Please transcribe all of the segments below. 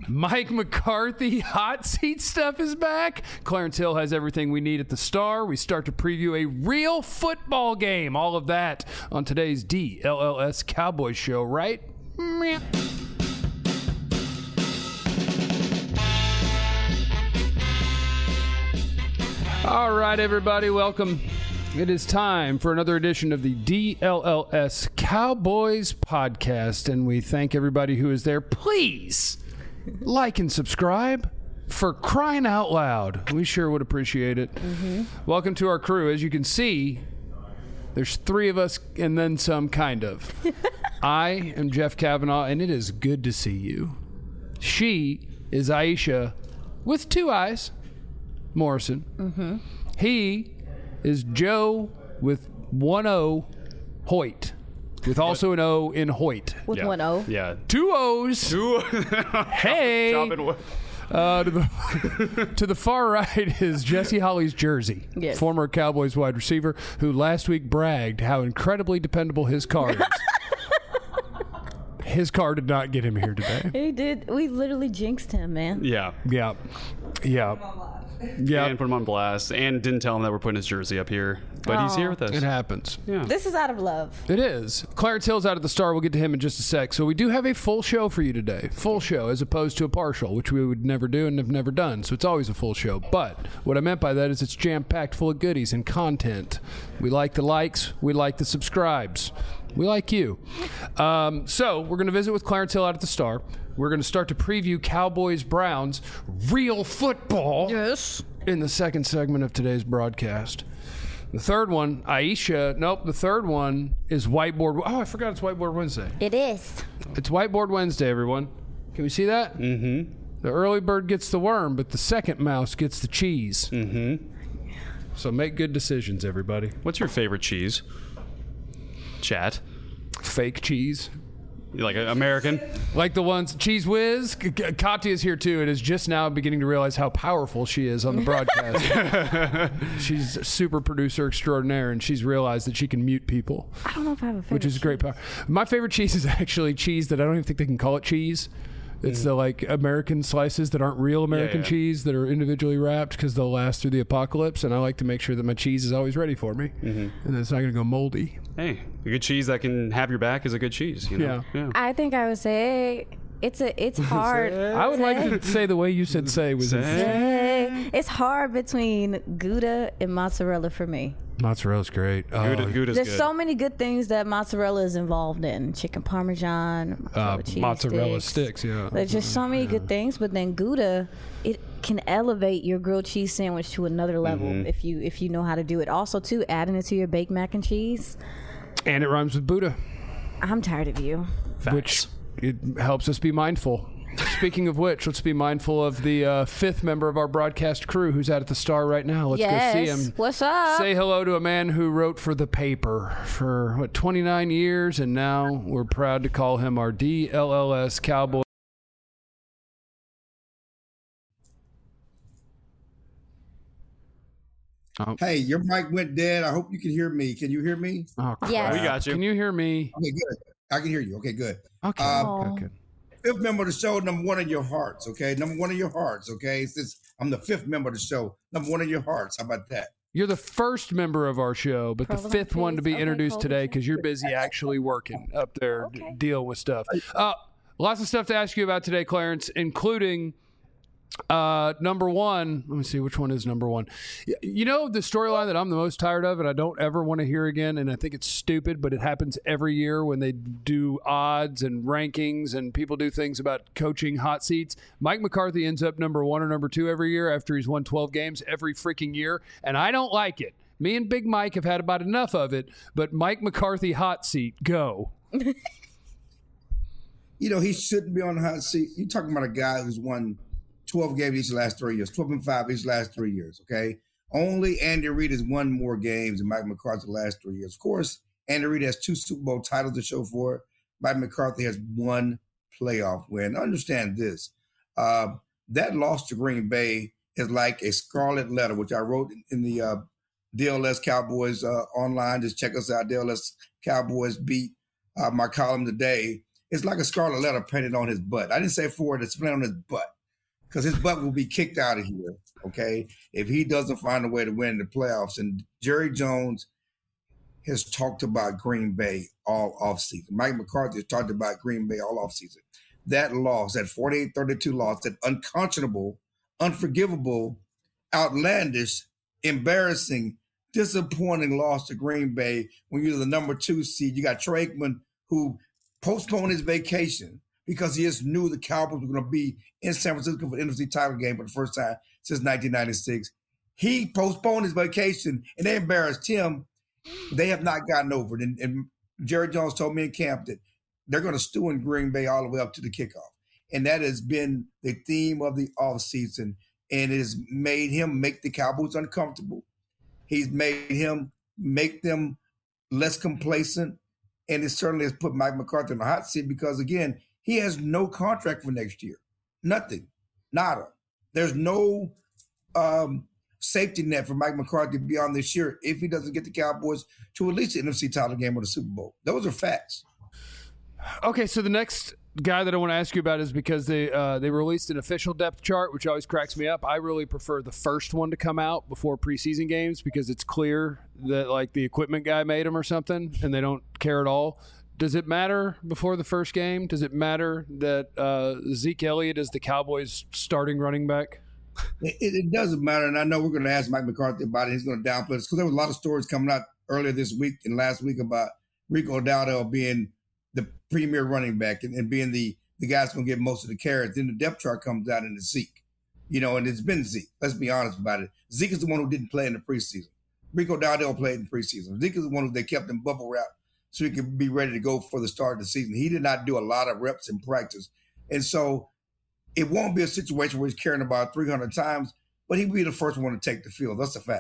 Mike McCarthy hot seat stuff is back. Clarence Hill has everything we need at the Star. We start to preview a real football game. All of that on today's DLLS Cowboys show, right? Meh. All right, everybody, welcome. It is time for another edition of the DLLS Cowboys podcast, and we thank everybody who is there. Please like and subscribe. For crying out loud, we sure would appreciate it. Welcome to our crew. As you can see, there's three of us and then some, kind of. I am Jeff Kavanaugh, and it is good to see you. She is Aisha with two eyes, Morrison. He is Joe with one O, Hoyt, with also an O in Hoyt. With one O? Yeah. Two O's. Hey. To the far right is Jesse Holly's Jersey, yes. Former Cowboys wide receiver who last week bragged how incredibly dependable his car is. His car did not get him here today. He did. We literally jinxed him, man. Yeah. Yeah. And put him on blast. And didn't tell him that we're putting his jersey up here. But he's here with us. It happens. Yeah. This is out of love. It is. Clarence Hill's out at the Star. We'll get to him in just a sec. So we do have a full show for you today. Full show as opposed to a partial, which we would never do and have never done. So it's always a full show. But what I meant by that is it's jam-packed full of goodies and content. We like the likes. We like the subscribes. We like you. So we're going to visit with Clarence Hill out at the Star. We're going to start to preview Cowboys-Browns real football. Yes. In the second segment of today's broadcast. The third one, the third one is Whiteboard. Oh, I forgot it's Whiteboard Wednesday. It is. It's Whiteboard Wednesday, everyone. Can we see that? Mm-hmm. The early bird gets the worm, but the second mouse gets the cheese. Mm-hmm. So make good decisions, everybody. What's your favorite cheese? Chat. Fake cheese. You like American? Like the ones, Cheese Whiz. Katya's here too and is just now beginning to realize how powerful she is on the broadcast. She's a super producer extraordinaire, and she's realized that she can mute people. I don't know if I have a favorite. Which is great power. My favorite cheese is actually cheese that I don't even think they can call it cheese. It's the like American slices that aren't real American cheese that are individually wrapped because they'll last through the apocalypse, and I like to make sure that my cheese is always ready for me and that it's not going to go moldy. Hey, a good cheese that can have your back is a good cheese. You know? Yeah. I think I would say it's hard. I would like to say the way you said say was It's hard between Gouda and mozzarella for me. Mozzarella's great. Gouda's There's good. so many good things that mozzarella is involved in. Chicken parmesan, mozzarella sticks, yeah. There's just so many good things, but then Gouda, it can elevate your grilled cheese sandwich to another level if you know how to do it. Also, too, adding it to your baked mac and cheese. And it rhymes with Buddha. I'm tired of you. Facts. Which it helps us be mindful. Speaking of which, let's be mindful of the fifth member of our broadcast crew who's out at the Star right now. Let's go see him. What's up? Say hello to a man who wrote for the paper for, 29 years, and now we're proud to call him our DLLS Cowboy. Hey, your mic went dead. I hope you can hear me. Can you hear me? Oh, crap. Yes. We got you. Can you hear me? Okay, good. I can hear you. Okay, good. Okay, good. Fifth member of the show, number one in your hearts, okay? Number one in your hearts, okay? Since I'm the fifth member of the show, number one in your hearts. How about that? You're the first member of our show, but the Provolone fifth one to be cheese. introduced Okay, today because you're busy actually working up there, dealing with stuff. Lots of stuff to ask you about today, Clarence, including number one. Let me see, which one is number one? You know the storyline that I'm the most tired of and I don't ever want to hear again, and I think it's stupid, but it happens every year when they do odds and rankings and people do things about coaching hot seats. Mike McCarthy ends up number one or number two every year after he's won 12 games every freaking year, and I don't like it. Me and Big Mike have had about enough of it, but Mike McCarthy hot seat, go. You know, he shouldn't be on the hot seat. You're talking about a guy who's won 12 games each last 3 years, 12-5 each last 3 years, okay? Only Andy Reid has won more games than Mike McCarthy the last 3 years. Of course, Andy Reid has 2 Super Bowl titles to show for it. Mike McCarthy has 1 playoff win. Understand this. That loss to Green Bay is like a scarlet letter, which I wrote in the DLS Cowboys online. Just check us out, DLS Cowboys beat my column today. it's like a scarlet letter painted on his butt. I didn't say forward, it's painted on his butt because his butt will be kicked out of here, okay, if he doesn't find a way to win the playoffs. And Jerry Jones has talked about Green Bay all offseason. Mike McCarthy has talked about Green Bay all offseason. That loss, that 48-32 loss, that unconscionable, unforgivable, outlandish, embarrassing, disappointing loss to Green Bay when you're the number 2 seed. You got Troy Aikman, who postponed his vacation because he just knew the Cowboys were going to be in San Francisco for the NFC title game for the first time since 1996. He postponed his vacation, and they embarrassed him. They have not gotten over it. And Jerry Jones told me in camp that they're going to stew in Green Bay all the way up to the kickoff. And that has been the theme of the offseason, and it has made him make the Cowboys uncomfortable. He's made him make them less complacent, and it certainly has put Mike McCarthy in the hot seat because, again, he has no contract for next year. Nothing. Nada. There's no safety net for Mike McCarthy beyond this year if he doesn't get the Cowboys to at least the NFC title game or the Super Bowl. Those are facts. Okay, so the next guy that I want to ask you about is because they released an official depth chart, which always cracks me up. I really prefer the first one to come out before preseason games because it's clear that like the equipment guy made them or something, and they don't care at all. Does it matter before the first game? Does it matter that Zeke Elliott is the Cowboys' starting running back? It doesn't matter, and I know we're going to ask Mike McCarthy about it. He's going to downplay this because there was a lot of stories coming out earlier this week and last week about Rico Dowdell being the premier running back and being the guy that's going to get most of the carries. Then the depth chart comes out and it's Zeke, and it's been Zeke. Let's be honest about it. Zeke is the one who didn't play in the preseason. Rico Dowdell played in the preseason. Zeke is the one who they kept in bubble wrap so he could be ready to go for the start of the season. He did not do a lot of reps in practice. And so it won't be a situation where he's carrying about 300 times, but he'll be the first one to take the field. That's a fact.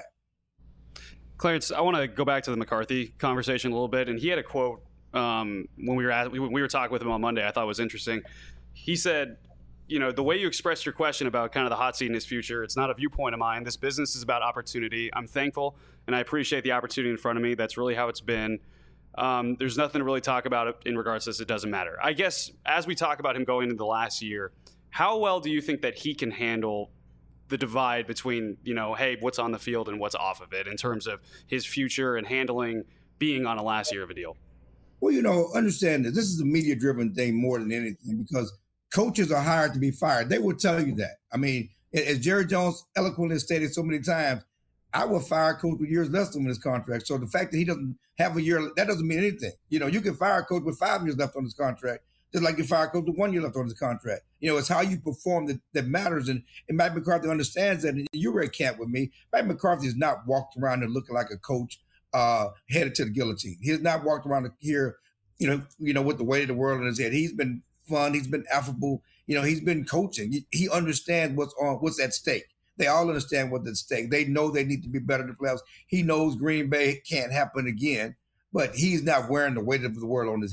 Clarence, I want to go back to the McCarthy conversation a little bit. And he had a quote when we were talking with him on Monday I thought was interesting. He said, the way you expressed your question about kind of the hot seat in his future, it's not a viewpoint of mine. This business is about opportunity. I'm thankful, and I appreciate the opportunity in front of me. That's really how it's been. There's nothing to really talk about in regards to this. It doesn't matter. I guess as we talk about him going into the last year, how well do you think that he can handle the divide between, hey, what's on the field and what's off of it in terms of his future and handling being on a last year of a deal? Well, understand that this is a media-driven thing more than anything because coaches are hired to be fired. They will tell you that. I mean, as Jerry Jones eloquently stated so many times, I will fire a coach with years left on his contract. So the fact that he doesn't have a year, that doesn't mean anything. You can fire a coach with 5 years left on his contract, just like you fire a coach with 1 year left on his contract. It's how you perform that matters. And Mike McCarthy understands that. And you were at camp with me. Mike McCarthy has not walked around and looking like a coach headed to the guillotine. He has not walked around here, with the weight of the world in his head. He's been fun. He's been affable. He's been coaching. He understands what's at stake. They all understand what's at stake. They know they need to be better in the playoffs. He knows Green Bay can't happen again, but he's not wearing the weight of the world on his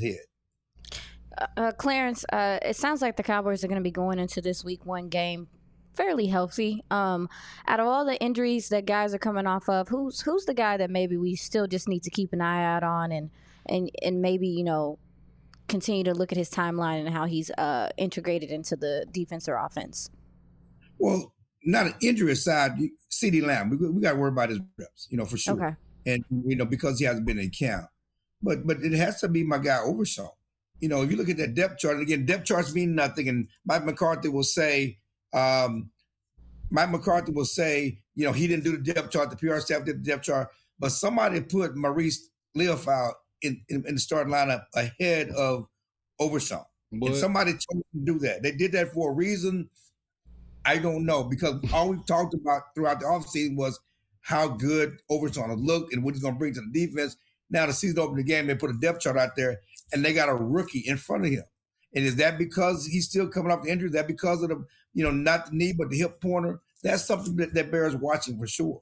head. Clarence, it sounds like the Cowboys are going to be going into this week 1 game fairly healthy. Out of all the injuries that guys are coming off of, who's the guy that maybe we still just need to keep an eye out on and maybe, continue to look at his timeline and how he's integrated into the defense or offense? Well, not an injury aside, CeeDee Lamb, we got to worry about his reps, for sure. Okay. And, because he hasn't been in camp. But it has to be my guy Overshawn. If you look at that depth chart, and again, depth charts mean nothing. And Mike McCarthy will say, he didn't do the depth chart, the PR staff did the depth chart, but somebody put Maurice Leofau in the starting lineup ahead of Overshawn. And somebody told him to do that. They did that for a reason. I don't know, because all we've talked about throughout the offseason was how good Overshawn will look and what he's going to bring to the defense. Now the season opening game, they put a depth chart out there, and they got a rookie in front of him. And is that because he's still coming off the injury? Is that because of the, not the knee, but the hip pointer? That's something that bears watching for sure.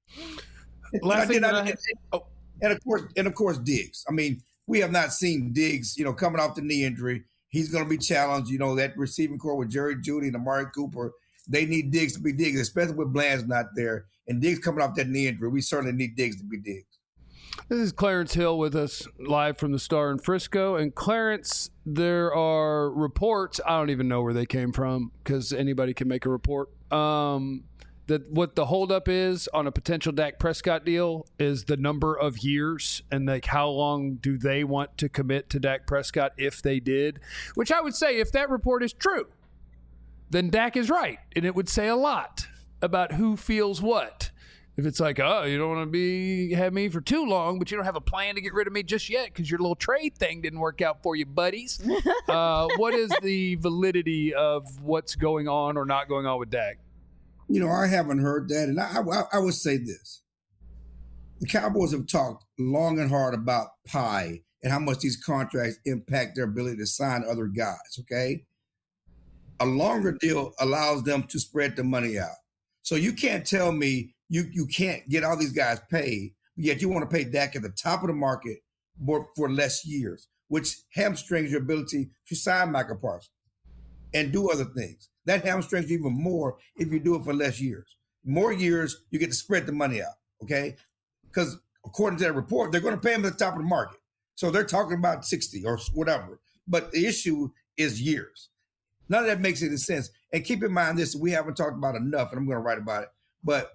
And of course, Diggs. I mean, we have not seen Diggs, coming off the knee injury. He's going to be challenged. That receiving core with Jerry Jeudy and Amari Cooper, they need Diggs to be Diggs, especially with Bland's not there. And Diggs coming off that knee injury, we certainly need Diggs to be Diggs. This is Clarence Hill with us live from the Star in Frisco. And Clarence, there are reports, I don't even know where they came from because anybody can make a report, that what the holdup is on a potential Dak Prescott deal is the number of years and like how long do they want to commit to Dak Prescott if they did, which I would say if that report is true, then Dak is right. And it would say a lot about who feels what. If it's like, oh, you don't want to have me for too long, but you don't have a plan to get rid of me just yet because your little trade thing didn't work out for you, buddies. What is the validity of what's going on or not going on with Dak? I haven't heard that. And I would say this. The Cowboys have talked long and hard about pie and how much these contracts impact their ability to sign other guys, okay? A longer deal allows them to spread the money out. So you can't tell me you can't get all these guys paid, yet you want to pay Dak at the top of the market for less years, which hamstrings your ability to sign Michael Parsons and do other things. That hamstrings you even more if you do it for less years. More years, you get to spread the money out, okay? Because according to that report, they're going to pay him at the top of the market. So they're talking about 60 or whatever. But the issue is years. None of that makes any sense. And keep in mind this, we haven't talked about enough, and I'm going to write about it, but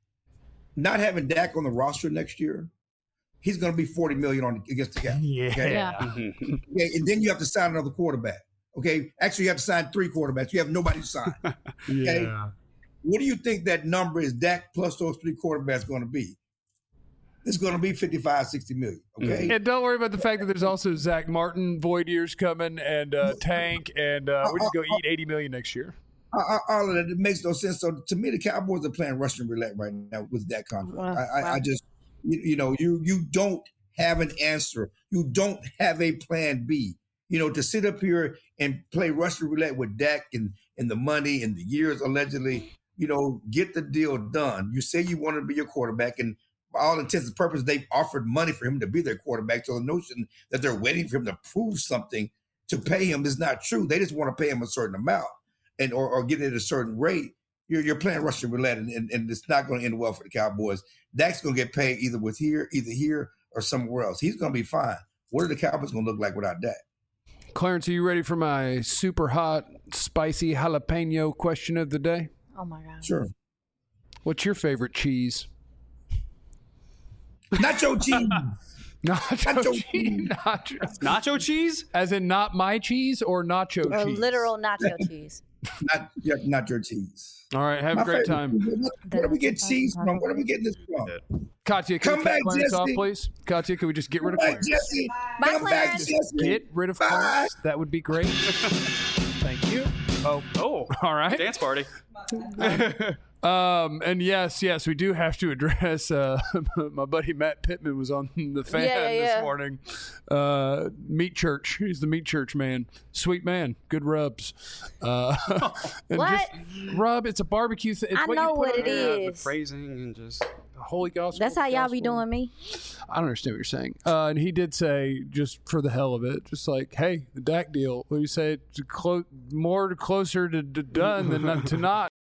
not having Dak on the roster next year, he's going to be $40 million against the cap. Yeah. Okay? Yeah. Okay, and then you have to sign another quarterback. Okay, actually, you have to sign 3 quarterbacks. You have nobody to sign. Okay, Yeah. what do you think that number is? Dak plus those 3 quarterbacks going to be? It's going to be 55, 60 million. Okay, And don't worry about the fact that there's also Zach Martin void years coming and Tank, and we're just going to eat $80 million next year. all of that, it makes no sense. So to me, the Cowboys are playing Russian roulette right now with that contract. I just, you don't have an answer. You don't have a plan B. To sit up here and play Russian roulette with Dak and the money and the years allegedly, get the deal done. You say you want to be your quarterback, and by all intents and purposes, they've offered money for him to be their quarterback. So the notion that they're waiting for him to prove something to pay him is not true. They just want to pay him a certain amount and or get it at a certain rate. You're playing Russian roulette, and it's not going to end well for the Cowboys. Dak's going to get paid either here or somewhere else. He's going to be fine. What are the Cowboys going to look like without Dak? Clarence, are you ready for my super hot, spicy jalapeno question of the day? Oh, my God. Sure. What's your favorite cheese? Nacho cheese. Nacho cheese. Nacho cheese? As in not my cheese or nacho Or cheese? literal nacho cheese. Not your cheese. All right, have a great time. Where do we get cheese from? Where do we get this from? Katya, can Come we back, cut Clarence off, Jesse. please? Katya, can we just get rid of Come back, Clarence? Jesse. Bye, Come back, Clarence. Jesse. Get rid of Bye. Clarence. That would be great. Thank you. Oh, all right. Dance party. And yes, we do have to address my buddy Matt Pittman was on the fan this morning. Meat Church. He's the Meat Church man. Sweet man. Good rubs. And What? Just rub. It's a barbecue thing. I know what it The is. phrasing and just Holy gospel. That's how y'all be doing me. I don't understand what you're saying. And he did say, just for the hell of it, just like, hey, the Dak deal. What do you say? Closer to done than to not.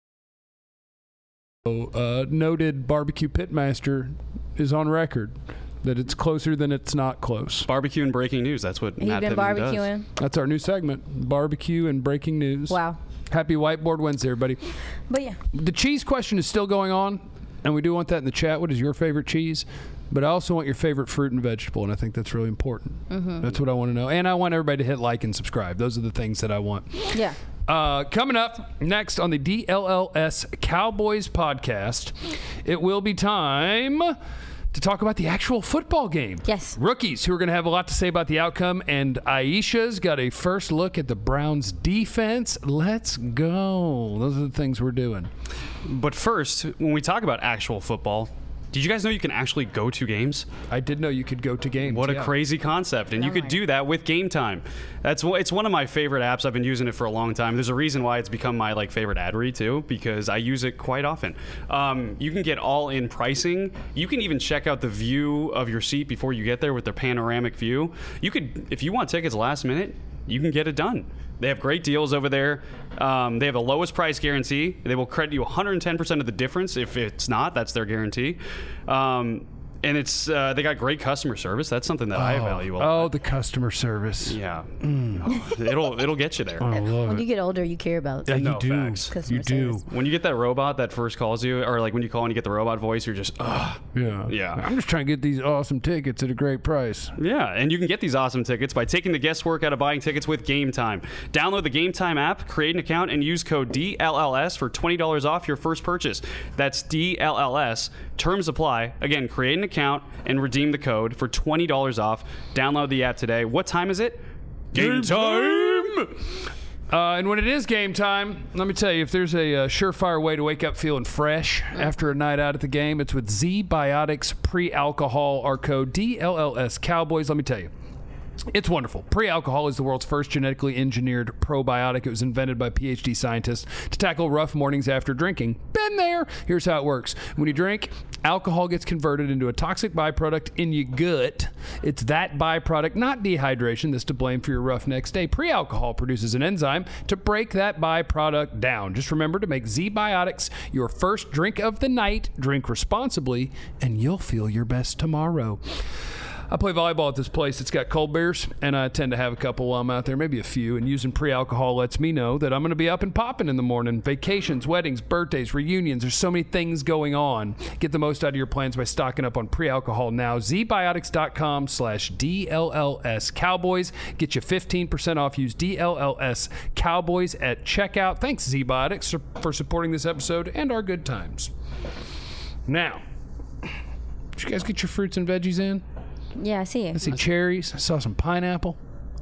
Noted barbecue pitmaster is on record that it's closer than it's not close. barbecue and breaking news. That's what He's Matt been Pittman barbecuing. That's our new segment, barbecue and breaking news. Wow. Happy Whiteboard Wednesday, everybody. But yeah. The cheese question is still going on, and we do want that in the chat. What is your favorite cheese? But I also want your favorite fruit and vegetable, and I think that's really important. Mm-hmm. That's what I want to know. And I want everybody to hit like and subscribe. Those are the things that I want. Yeah. Coming up next on the DLLS Cowboys podcast, it will be time to talk about the actual football game. Yes. Rookies who are going to have a lot to say about the outcome, and Aisha's got a first look at the Browns defense. Let's go. Those are the things we're doing. But first, when we talk about actual football, did you guys know you can actually go to games? I did know you could go to games. What a crazy concept. And you could do that with Game Time. It's one of my favorite apps. I've been using it for a long time. There's a reason why it's become my favorite ad read too, because I use it quite often. You can get all-in pricing. You can even check out the view of your seat before you get there with their panoramic view. You could, if you want tickets last minute, you can get it done. They have great deals over there. They have the lowest price guarantee. They will credit you 110% of the difference. If it's not, that's their guarantee. And And it's they got great customer service. That's something that I value a lot. Oh, the customer service. Yeah. It'll get you there. I love When it. you get older, you care about Yeah, you No, do. facts. customer You do. service. When you get that robot that first calls you, or like when you call and you get the robot voice, you're just, ugh. Yeah. Yeah. I'm just trying to get these awesome tickets at a great price. Yeah, and you can get these awesome tickets by taking the guesswork out of buying tickets with Game Time. Download the Game Time app, create an account, and use code DLLS for $20 off your first purchase. That's DLLS. Terms apply. Again, create an account and redeem the code for $20 off. Download the app today. What time is it? Game time! And when it is game time, let me tell you, if there's a surefire way to wake up feeling fresh after a night out at the game, it's with Z-Biotics Pre-Alcohol. Our code DLLS Cowboys. Let me tell you, it's wonderful. Pre-alcohol is the world's first genetically engineered probiotic. It was invented by PhD scientists to tackle rough mornings after drinking. Been there. Here's how it works. When you drink, alcohol gets converted into a toxic byproduct in your gut. It's that byproduct, not dehydration, that's to blame for your rough next day. Pre-alcohol produces an enzyme to break that byproduct down. Just remember to make Z-Biotics your first drink of the night. Drink responsibly, and you'll feel your best tomorrow. I play volleyball at this place. It's got cold beers, and I tend to have a couple while I'm out there, maybe a few. And using pre-alcohol lets me know that I'm going to be up and popping in the morning. Vacations, weddings, birthdays, reunions. There's so many things going on. Get the most out of your plans by stocking up on pre-alcohol now. ZBiotics.com/DLLS Cowboys. Get you 15% off. Use DLLS Cowboys at checkout. Thanks, Z-Biotics, for supporting this episode and our good times. Now, did you guys get your fruits and veggies in? Yeah, I see it. I see cherries. I saw some pineapple,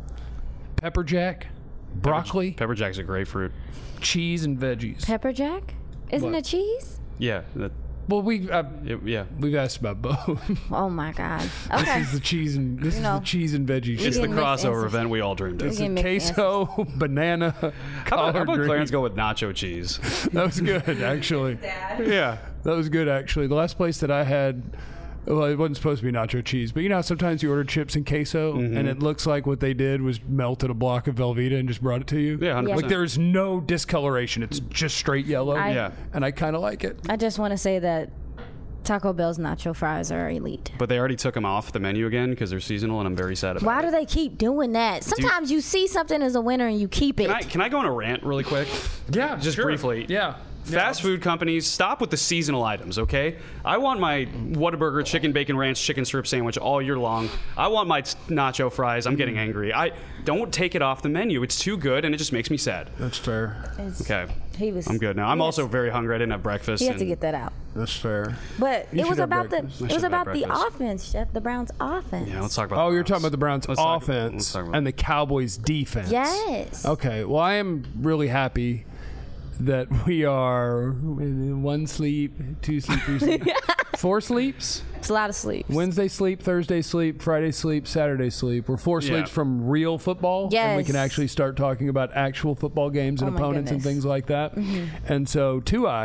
pepper jack, broccoli, Pepper Jack's a great fruit. cheese, and veggies. Pepper jack? Isn't What? it cheese? Yeah. Well, we've Yeah. asked about both. Oh my God. Okay. This is the cheese and this know, is the cheese and veggie It's shit. the getting mixed crossover answers. event we all dreamed It's of. getting the mixed queso, banana, How collard about green. Clarence go with nacho cheese? That was good, actually. Yeah. That was good, actually. The last place that I had, well, it wasn't supposed to be nacho cheese, but you know how sometimes you order chips and queso, and it looks like what they did was melted a block of Velveeta and just brought it to you? Yeah, 100%. Like there's no discoloration. It's just straight yellow. Yeah. And I kind of like it. I just want to say that Taco Bell's nacho fries are elite. But they already took them off the menu again because they're seasonal, and I'm very sad about Why it. do they keep doing that? Sometimes you see something as a winner and you keep it. Can I go on a rant really quick? Yeah, Just briefly. Yeah. Fast food companies, stop with the seasonal items, okay? I want my Whataburger chicken bacon ranch chicken strip sandwich all year long. I want my nacho fries. I'm getting angry. I don't take it off the menu. It's too good, and it just makes me sad. That's fair. Okay, I'm good now. I'm Yes. also very hungry. I didn't have breakfast. He had to and- get that out. That's fair. But You it should was have about breakfast. the I it was should have about the breakfast. offense, Chef. The Browns' offense. Yeah, let's talk about. Oh, the you're talking Browns. about the Browns' Let's talk- offense let's talk about- and the Cowboys' defense. Yes. Okay. Well, I am really happy that we are in 1 sleep, 2 sleep, 3 sleep, 4 sleeps. It's a lot of sleep. Wednesday sleep, Thursday sleep, Friday sleep, Saturday sleep. We're 4 Yeah. sleeps from real football. And we can Yes. actually start talking about actual football games and Oh my opponents and goodness. things like that. And so,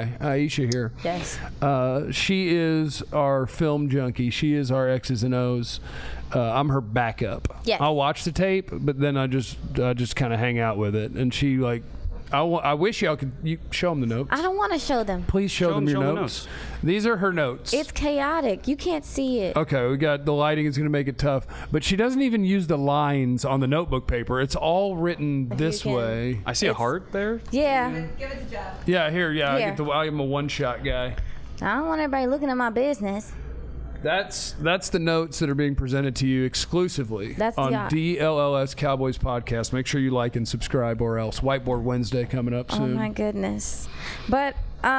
Aisha here. Yes. She is our film junkie. She is our X's and O's. I'm her backup. Yes. I'll watch the tape, but then I just kind of hang out with it. And she like, I wish y'all could show them the notes. I don't want to show them. Please show them your show 'em the notes. These are her notes. It's chaotic. You can't see it. Okay, we got the lighting is going to make it tough, but she doesn't even use the lines on the notebook paper. It's all written this can- way. I see a heart there. Yeah. Yeah, here, I Here. I'm a one-shot guy. I don't want everybody looking at my business. That's the notes that are being presented to you exclusively That's the on eye. DLLS Cowboys podcast. Make sure you like and subscribe, or else Whiteboard Wednesday coming up Oh soon. my goodness. But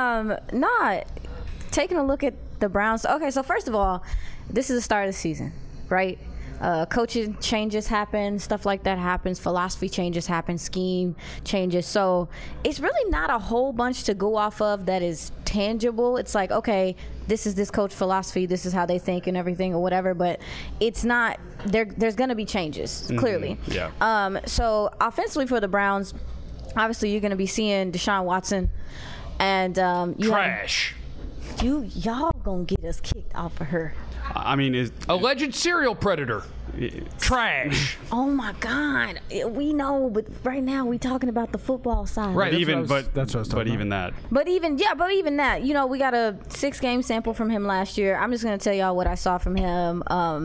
not taking a look at the Browns. Okay, so first of all, this is the start of the season, right? Coaching changes happen, stuff like that happens, philosophy changes happen, scheme changes. So it's really not a whole bunch to go off of that is tangible. It's like, okay, this is this coach philosophy, this is how they think and everything or whatever, but it's not, there's going to be changes, clearly. Yeah. So offensively for the Browns, obviously you're going to be seeing Deshaun Watson and you have- Trash. y'all gonna get us kicked off of her. I mean, Alleged serial predator. Trash. Oh my God, we know, but right now we talking about the football side. Right. that's what I was talking but about. even that. But even that, you know, we got a 6-game sample from him last year. I'm just gonna tell y'all what I saw from him.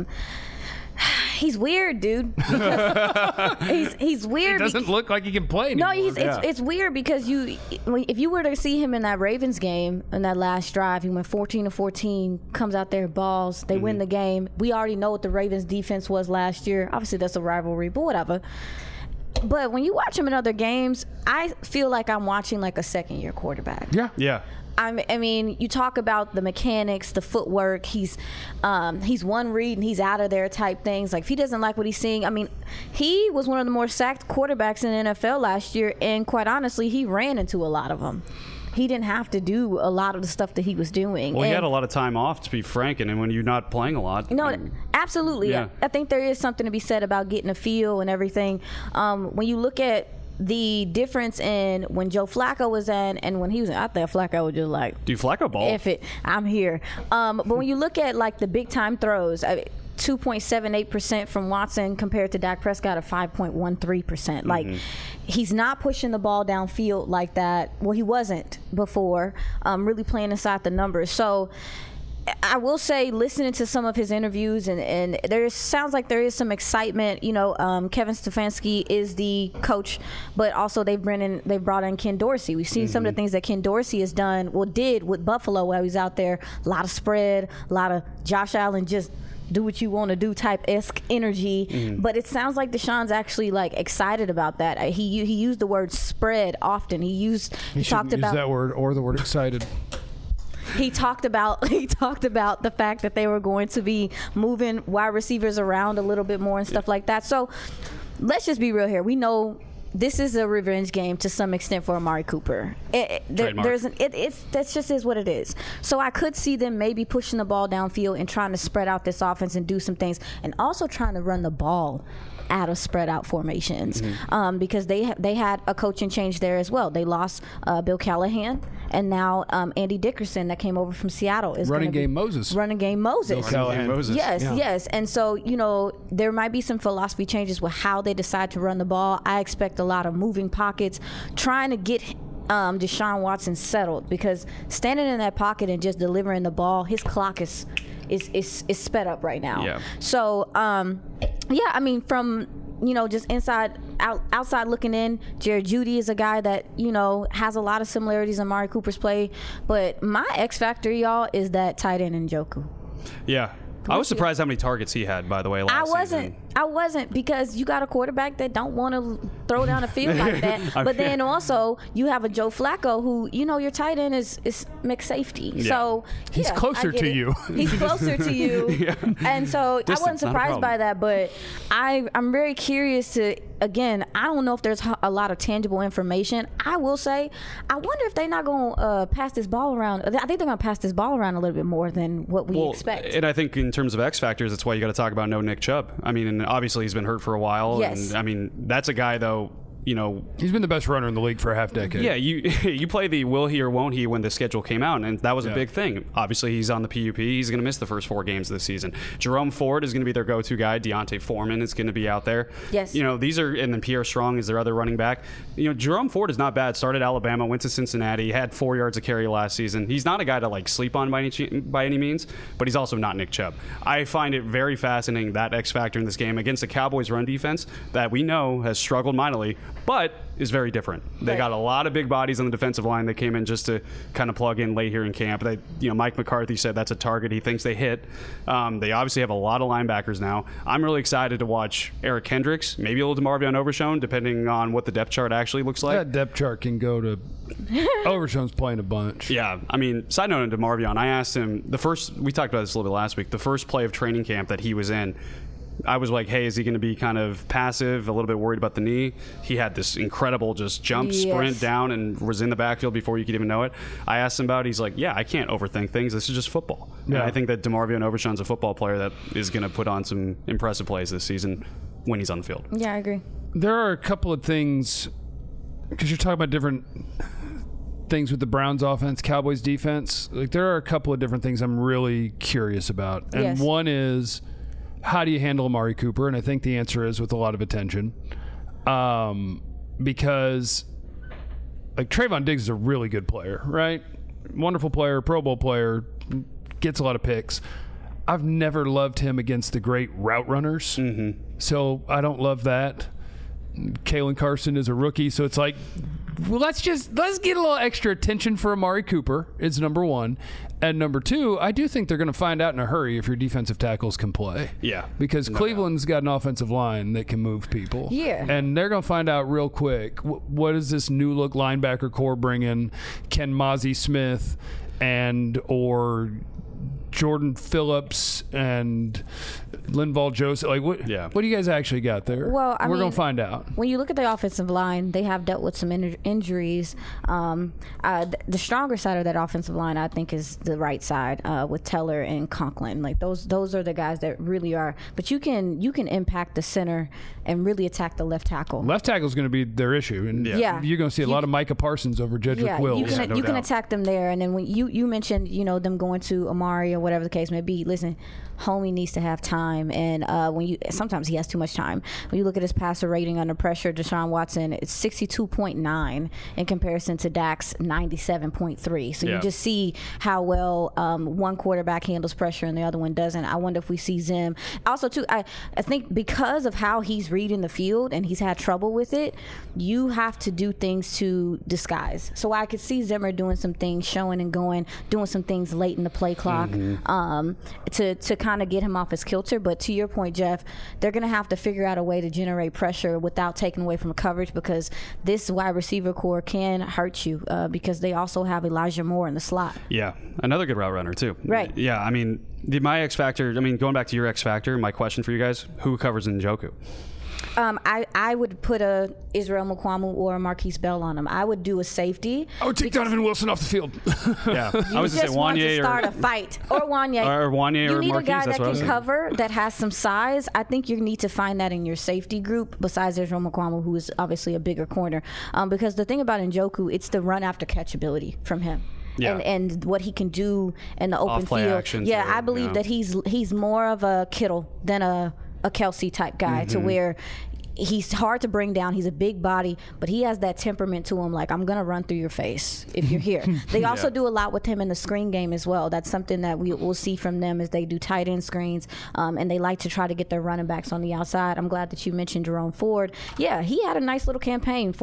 He's weird, dude. He's weird. He doesn't look like he can play anymore. No, it's weird because if you were to see him in that Ravens game in that last drive, he went 14-14, comes out there, balls, they win the game. We already know what the Ravens defense was last year. Obviously, that's a rivalry, but whatever. But when you watch him in other games, I feel like I'm watching like a second-year quarterback. Yeah. I mean, you talk about the mechanics, the footwork. He's one read and he's out of there type things. Like if he doesn't like what he's seeing, I mean, he was one of the more sacked quarterbacks in the NFL last year, and quite honestly, he ran into a lot of them. He didn't have to do a lot of the stuff that he was doing. Well, he had a lot of time off, to be frank, and when you're not playing a lot. No, absolutely. Yeah. I think there is something to be said about getting a feel and everything. When you look at the difference in when Joe Flacco was in and when he was out there, Flacco was just like, Dude, Flacco ball. F it, I'm here. But when you look at like the big time throws, 2.78% from Watson compared to Dak Prescott at 5.13%. Like he's not pushing the ball downfield like that. Well, he wasn't before, really playing inside the numbers. So I will say, listening to some of his interviews, and there sounds like there is some excitement. You know, Kevin Stefanski is the coach, but also they've brought in Ken Dorsey. We've seen some of the things that Ken Dorsey has did with Buffalo while he's out there. A lot of spread, a lot of Josh Allen just do what you want to do type-esque energy. But it sounds like Deshaun's actually like excited about that. He used the word spread often. He talked about that word or the word excited. He talked about the fact that they were going to be moving wide receivers around a little bit more and stuff like that. So let's just be real here. We know this is a revenge game to some extent for Amari Cooper. That's just is what it is. So I could see them maybe pushing the ball downfield and trying to spread out this offense and do some things, and also trying to run the ball out of spread out formations, because they had a coaching change there as well. They lost Bill Callahan, and now Andy Dickerson that came over from Seattle is running game Moses. Bill Callahan. Moses. Yes. And so, you know, there might be some philosophy changes with how they decide to run the ball. I expect a lot of moving pockets, trying to get Deshaun Watson settled, because standing in that pocket and just delivering the ball, his clock is sped up right now. Yeah. So, I mean, from, you know, just outside looking in, Jared Jeudy is a guy that, you know, has a lot of similarities in Amari Cooper's play. But my X factor, y'all, is that tight end Njoku. Yeah. I was surprised how many targets he had, by the way, last season. I wasn't, because you got a quarterback that don't want to throw down a field like that. But then also you have a Joe Flacco who, you know, your tight end is mixed safety. Yeah. So he's closer to you. He's closer to you. Yeah. And so Distance, I wasn't surprised by that, but I'm very curious to, again, I don't know if there's a lot of tangible information. I will say, I wonder if they're not going to pass this ball around. I think they're going to pass this ball around a little bit more than what we expect. And I think in terms of X factors, that's why you got to talk about no Nick Chubb. I mean, and obviously he's been hurt for a while. Yes. And I mean, that's a guy, though, you know, he's been the best runner in the league for a half decade. Yeah, you play the will he or won't he when the schedule came out, and that was a big thing. Obviously, he's on the PUP. He's going to miss the first 4 games this season. Jerome Ford is going to be their go-to guy. Deontay Foreman is going to be out there. Yes. You know, these are, and then Pierre Strong is their other running back. You know, Jerome Ford is not bad. Started Alabama, went to Cincinnati, had 4 yards of carry last season. He's not a guy to like sleep on by any means, but he's also not Nick Chubb. I find it very fascinating, that X factor in this game against the Cowboys' run defense that we know has struggled mightily, but is very different. They got a lot of big bodies on the defensive line that came in just to kind of plug in late here in camp. Mike McCarthy said that's a target he thinks they hit. They obviously have a lot of linebackers now. I'm really excited to watch Eric Kendricks, maybe a little DeMarvion Overshown, depending on what the depth chart actually looks like. That depth chart can go to Overshown's playing a bunch. Yeah, I mean, side note on DeMarvion, I asked him we talked about this a little bit last week, the first play of training camp that he was in, I was like, hey, is he going to be kind of passive, a little bit worried about the knee? He had this incredible just jump, sprint down, and was in the backfield before you could even know it. I asked him about it. He's like, yeah, I can't overthink things. This is just football. Yeah. And I think that DeMarvion Overshown's a football player that is going to put on some impressive plays this season when he's on the field. Yeah, I agree. There are a couple of things, because you're talking about different things with the Browns offense, Cowboys defense. Like, there are a couple of different things I'm really curious about. And Yes. one is, how do you handle Amari Cooper? And I think the answer is with a lot of attention. Because, like, Trayvon Diggs is a really good player, right? Wonderful player, Pro Bowl player, gets a lot of picks. I've never loved him against the great route runners. So I don't love that. Kalen Carson is a rookie, so it's like, well, let's get a little extra attention for Amari Cooper is number one. And number two, I do think they're going to find out in a hurry if your defensive tackles can play. Yeah. Because Cleveland's got an offensive line that can move people. Yeah. And they're going to find out real quick, what does this new look linebacker core bring in? Can Mozzie Smith or Jordan Phillips and Linval Joseph, like, what do you guys actually got there? Well, we're going to find out. When you look at the offensive line, they have dealt with some injuries. The stronger side of that offensive line, I think, is the right side with Teller and Conklin. Like, those are the guys that really are. But you can impact the center and really attack the left tackle. Left tackle is going to be their issue, and you're going to see a lot of Micah Parsons over Jedrick Wills. You can attack them there, and then when you mentioned them going to Amari or whatever the case may be. Listen, homie needs to have time, and sometimes he has too much time. When you look at his passer rating under pressure, Deshaun Watson, it's 62.9 in comparison to Dak's 97.3. So you just see how well one quarterback handles pressure and the other one doesn't. I wonder if we see Zim. Also, too, I think because of how he's reading the field and he's had trouble with it, you have to do things to disguise. So I could see Zimmer doing some things, showing and going, doing some things late in the play clock to kind of get him off his kilter. But to your point, Jeff, they're going to have to figure out a way to generate pressure without taking away from coverage, because this wide receiver core can hurt you because they also have Elijah Moore in the slot. Yeah, another good route runner too. Right. Yeah, I mean, my X factor. I mean, going back to your X factor, my question for you guys: who covers Njoku? I would put a Israel Mukuamu or a Marquise Bell on him. I would do a safety. I would take Donovan Wilson off the field. Yeah, I was you just want to start a fight. Or Wanye. Or Wanye you or need Marquise, a guy that's that what I was can saying. cover, that has some size. I think you need to find that in your safety group, besides Israel Mukuamu, who is obviously a bigger corner. Because the thing about Njoku, it's the run after catch ability from him. Yeah. And what he can do in the open Off-play field. action, Yeah, too, I believe that he's more of a Kittle than a Kelsey type guy, to where he's hard to bring down. He's a big body, but he has that temperament to him, like, I'm going to run through your face if you're here. They also do a lot with him in the screen game as well. That's something that we'll see from them, as they do tight end screens, and they like to try to get their running backs on the outside. I'm glad that you mentioned Jerome Ford. Yeah, he had a nice little campaign,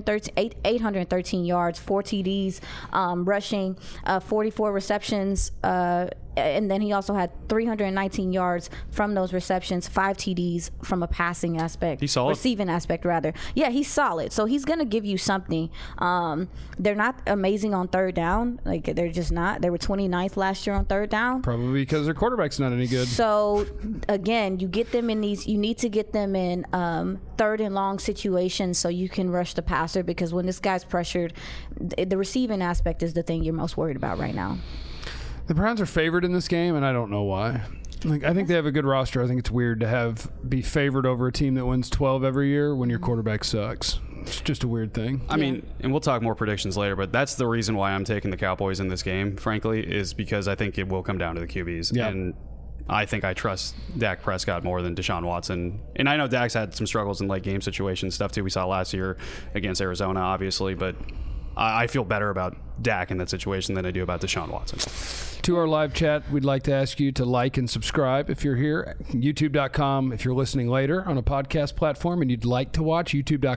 813 yards, 4 TDs, rushing, 44 receptions, and then he also had 319 yards from those receptions, 5 TDs from a passing aspect. He's solid. Receiving aspect, rather. Yeah, he's solid. So he's going to give you something. They're not amazing on third down. Like, they're just not. They were 29th last year on third down. Probably because their quarterback's not any good. So, again, you get them in these, you need to get them in third and long situations so you can rush the passer, because when this guy's pressured, the receiving aspect is the thing you're most worried about right now. The Browns are favored in this game, and I don't know why. Like, I think they have a good roster. I think it's weird to be favored over a team that wins 12 every year when your quarterback sucks. It's just a weird thing. I mean, and we'll talk more predictions later, but that's the reason why I'm taking the Cowboys in this game, frankly, is because I think it will come down to the QBs. Yeah. And I think I trust Dak Prescott more than Deshaun Watson. And I know Dak's had some struggles in late game situations, stuff too. We saw last year against Arizona, obviously, but I feel better about Dak in that situation than I do about Deshaun Watson. To our live chat, we'd like to ask you to like and subscribe if you're here. YouTube.com if you're listening later on a podcast platform and you'd like to watch.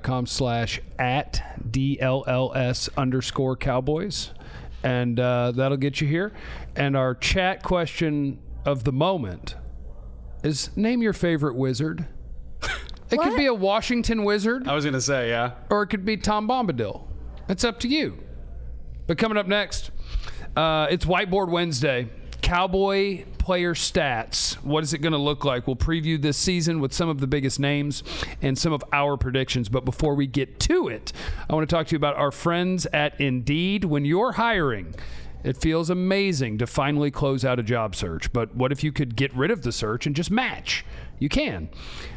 YouTube.com/@DLLS_Cowboys. And that'll get you here. And our chat question of the moment is, name your favorite wizard. It could be a Washington Wizard. I was going to say, yeah. Or it could be Tom Bombadil. It's up to you. But coming up next, it's Whiteboard Wednesday. Cowboy player stats. What is it going to look like? We'll preview this season with some of the biggest names and some of our predictions. But before we get to it, I want to talk to you about our friends at Indeed. When you're hiring, it feels amazing to finally close out a job search. But what if you could get rid of the search and just match? You can.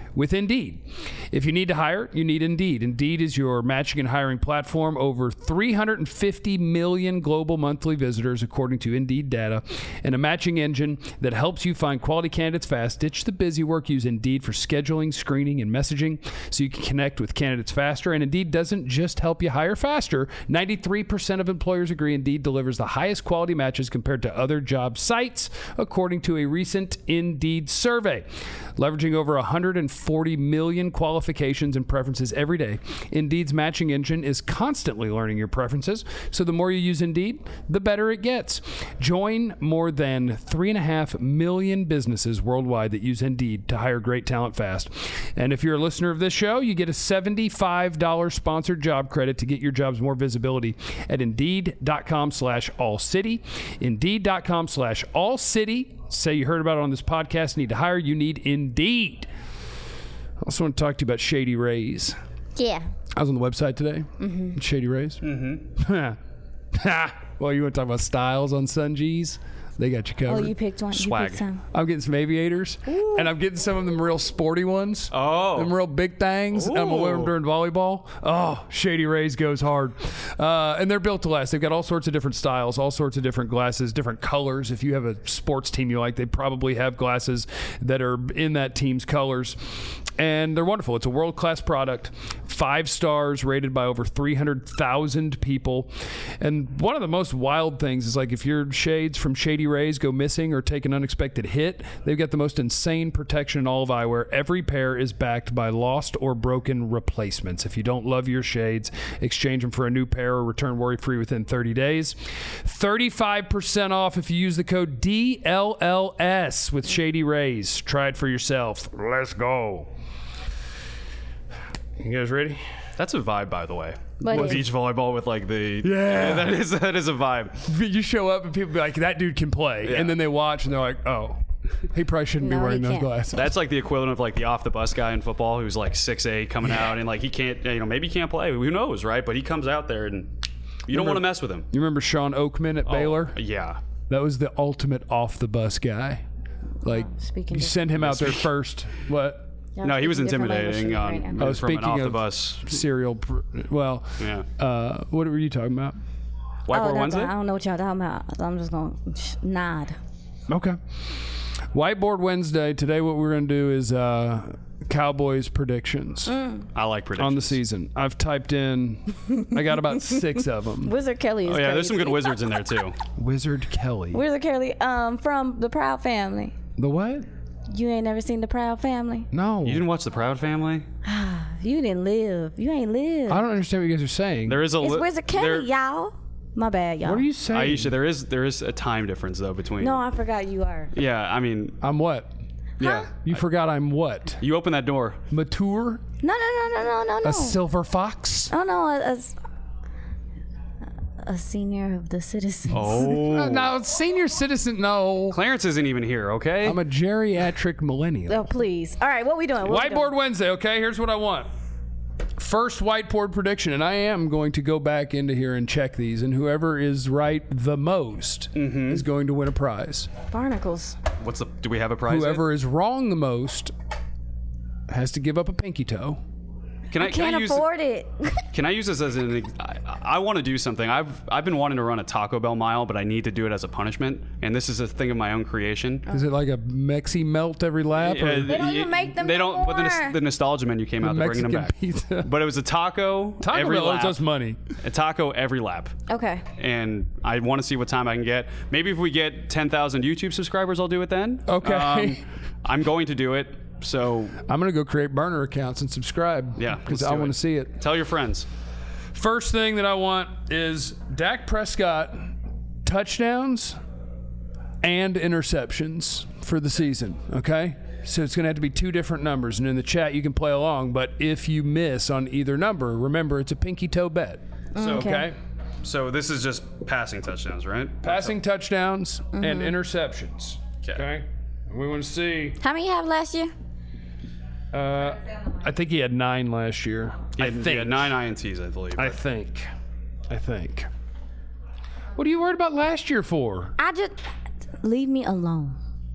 with Indeed. If you need to hire, you need Indeed. Indeed is your matching and hiring platform. Over 350 million global monthly visitors, according to Indeed data, and a matching engine that helps you find quality candidates fast. Ditch the busy work. Use Indeed for scheduling, screening, and messaging so you can connect with candidates faster. And Indeed doesn't just help you hire faster. 93% of employers agree Indeed delivers the highest quality matches compared to other job sites, according to a recent Indeed survey. Leveraging over 140 million qualifications and preferences every day, Indeed's matching engine is constantly learning your preferences, so the more you use Indeed, the better it gets. Join more than 3.5 million businesses worldwide that use Indeed to hire great talent fast. And if you're a listener of this show, you get a $75 sponsored job credit to get your jobs more visibility at Indeed.com/AllCity. Indeed.com/AllCity. Say you heard about it on this podcast, need to hire, you need Indeed. I also want to talk to you about Shady Rays. Yeah. I was on the website today. Mm-hmm. Shady Rays. Mm-hmm. Well, you want to talk about styles on Sungees? They got you covered. Oh, you picked one. Swag. You picked some. I'm getting some aviators, and I'm getting some of them real sporty ones. Oh. Them real big things. And I'm going to wear them during volleyball. Oh, Shady Rays goes hard. And they're built to last. They've got all sorts of different styles, all sorts of different glasses, different colors. If you have a sports team you like, they probably have glasses that are in that team's colors. And they're wonderful. It's a world-class product. 5 stars, rated by over 300,000 people. And one of the most wild things is, like, if your shades from Shady Rays go missing or take an unexpected hit, they've got the most insane protection in all of eyewear. Every pair is backed by lost or broken replacements. If you don't love your shades, exchange them for a new pair or return worry-free within 30 days. 35% off if you use the code DLLS with Shady Rays. Try it for yourself. Let's go. You guys ready? That's a vibe, by the way. But Beach volleyball with like the that is a vibe. You show up and people be like, that dude can play. Yeah. And then they watch and they're like, oh, he probably shouldn't be No, wearing he those can't. glasses. That's like the equivalent of like the off the bus guy in football who's like 6'8" coming out and like he can't, maybe he can't play. Who knows, right? But he comes out there and you don't want to mess with him. You remember Sean Oakman at Baylor? Yeah. That was the ultimate off the bus guy. Like, speaking you send him out there first. What? No, he was intimidating Right from Oh, an speaking off the of bus. serial. Well, Yeah. what were you talking about? Whiteboard Wednesday? I don't know what y'all talking about. I'm just going to nod. Okay. Whiteboard Wednesday. Today, what we're going to do is Cowboys predictions I like predictions. on the season. I've typed in, I got about 6 of them. Wizard Kelly is Oh, yeah, there's some crazy. good wizards in there too. Wizard Kelly. Wizard Kelly from the Proud Family. The what? You ain't never seen the Proud Family? No. You didn't watch The Proud Family? You didn't live. You ain't live. I don't understand what you guys are saying. There is a It's li- Wizard Kelly, there- y'all. My bad, y'all. What are you saying? Aisha, there is a time difference though between. No, I forgot you are. Yeah, I mean, I'm what? yeah. You forgot I'm what? You open that door. Mature? No. A silver fox? Oh no, a senior of the citizens. Oh. No, senior citizen, no. Clarence isn't even here, okay? I'm a geriatric millennial. Oh please. All right, what we doing? What we Whiteboard doing? Wednesday, okay? Here's what I want. First whiteboard prediction, and I am going to go back into here and check these, and whoever is right the most is going to win a prize. Barnacles. Do we have a prize? Whoever is wrong the most has to give up a pinky toe. Can I Can't use afford it. Can I use this as an? I want to do something. I've been wanting to run a Taco Bell mile, but I need to do it as a punishment. And this is a thing of my own creation. Is it like a Mexi melt every lap? Or They don't even make them They don't. But anymore. the nostalgia menu came out. They're bringing them Mexican back. pizza? But it was a taco, Taco every Bell lap. owes us money. A taco every lap. Okay. And I want to see what time I can get. Maybe if we get 10,000 YouTube subscribers, I'll do it then. Okay. I'm going to do it. So I'm going to go create burner accounts and subscribe. Yeah, Because let's I do want it. to see it. tell your friends. First thing that I want is Dak Prescott touchdowns and interceptions for the season, okay? So it's going to have to be 2 different numbers. And in the chat, you can play along. But if you miss on either number, remember, it's a pinky toe bet. So, okay? So this is just passing touchdowns, right? Passing touchdowns and interceptions. Okay? We want to see. How many you have last year? I think he had 9 last year. I think. Yeah, 9 INTs, I believe. I think. What are you worried about last year for? I just leave me alone.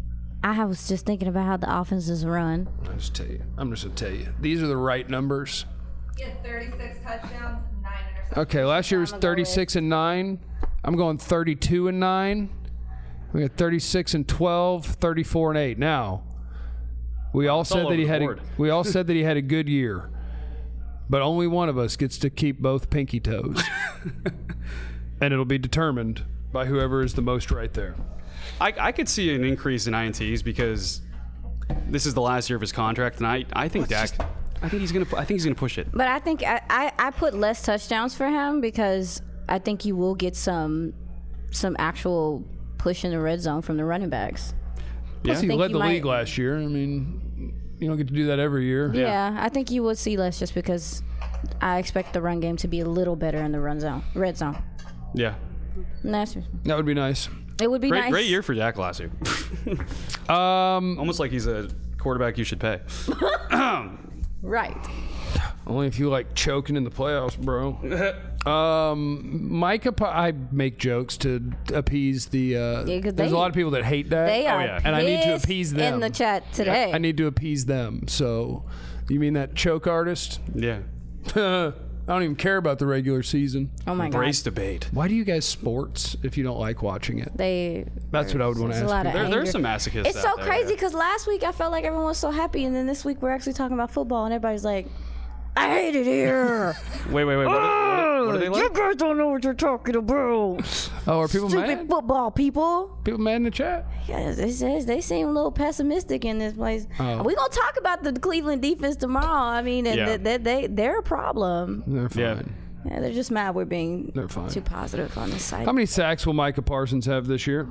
I was just thinking about how the offense is run. I'm just going to tell you. These are the right numbers. He had 36 touchdowns, 9 interceptions. Okay, last year was 36 and 9. I'm going 32 and 9. We got 36 and 12, 34 and 8. Now, we all said that he had a good year, but only one of us gets to keep both pinky toes, and it'll be determined by whoever is the most right there. I could see an increase in INTs because this is the last year of his contract, and I think Dak. I think he's gonna push it. But I think I put less touchdowns for him because I think you will get some actual push in the red zone from the running backs. Plus, he think led you the might- league last year. I mean, you don't get to do that every year. Yeah, I think you would see less just because I expect the run game to be a little better in the red zone. Yeah. That That would be nice. it would be nice. Great year for Dak last year. Almost like he's a quarterback you should pay. Right. Only if you like choking in the playoffs, bro. Micah, I make jokes to appease the. 'cause there's a lot of people that hate that. They are yeah. And I need to pissed appease them in the chat today. I need to appease them. So, you mean that choke artist? Yeah. I don't even care about the regular season. Oh my Brace god. debate. Why do you guys sports if you don't like watching it? That's what I would want to there's a ask lot you. of There's anger. some masochists. It's so out there, crazy yeah. because last week I felt like everyone was so happy, and then this week we're actually talking about football, and everybody's like, "I hate it here." Wait. What are they You like? guys don't know what you're talking about. Oh, are people Stupid mad? football people. People mad in the chat? Yeah, they seem a little pessimistic in this place. Oh. We're gonna talk about the Cleveland defense tomorrow. I mean, and Yeah. they're a problem. They're fine. Yeah. Yeah, they're just mad we're being They're fine. too positive on this site. How many sacks will Micah Parsons have this year?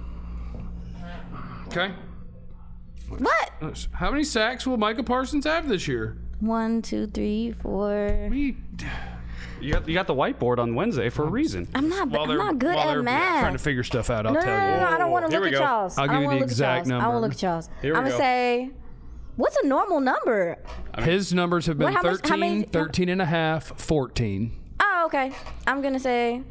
Okay. What? How many sacks will Micah Parsons have this year? 1, 2, 3, 4. You got the whiteboard on Wednesday for a reason. I'm not good While they're at math. trying to figure stuff out, I'll No, tell no, you. no, I don't want to Here look we at go. y'all's. I'll I give don't you wanna the look at exact y'all's. I number. won't look at y'all's. Here we I'm go. gonna say, what's a normal number? His numbers have been What, how much- 13, how many- 13 and a half, 14. Oh, okay. I'm gonna say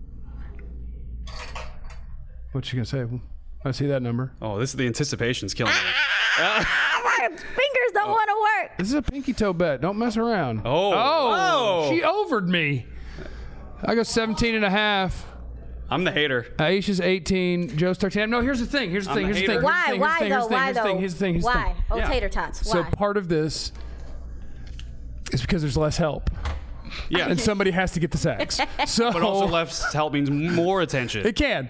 What you gonna say? I see that number. Oh, the anticipation's killing me. my fingers don't want to work. This is a pinky toe bet. Don't mess around. Oh. She overed me. I go 17 and a half. I'm the hater. Aisha's 18. Joe's 13. No, here's the thing. Here's the I'm thing. a Here's the hater. thing. Why? Here's Why the thing. though? Why though? Here's the thing. Here's the Why? thing. Oh, Yeah. tater tots. So Why? part of this is because there's less help, Yeah. and somebody has to get the sacks. So, But also left help means more attention. it can.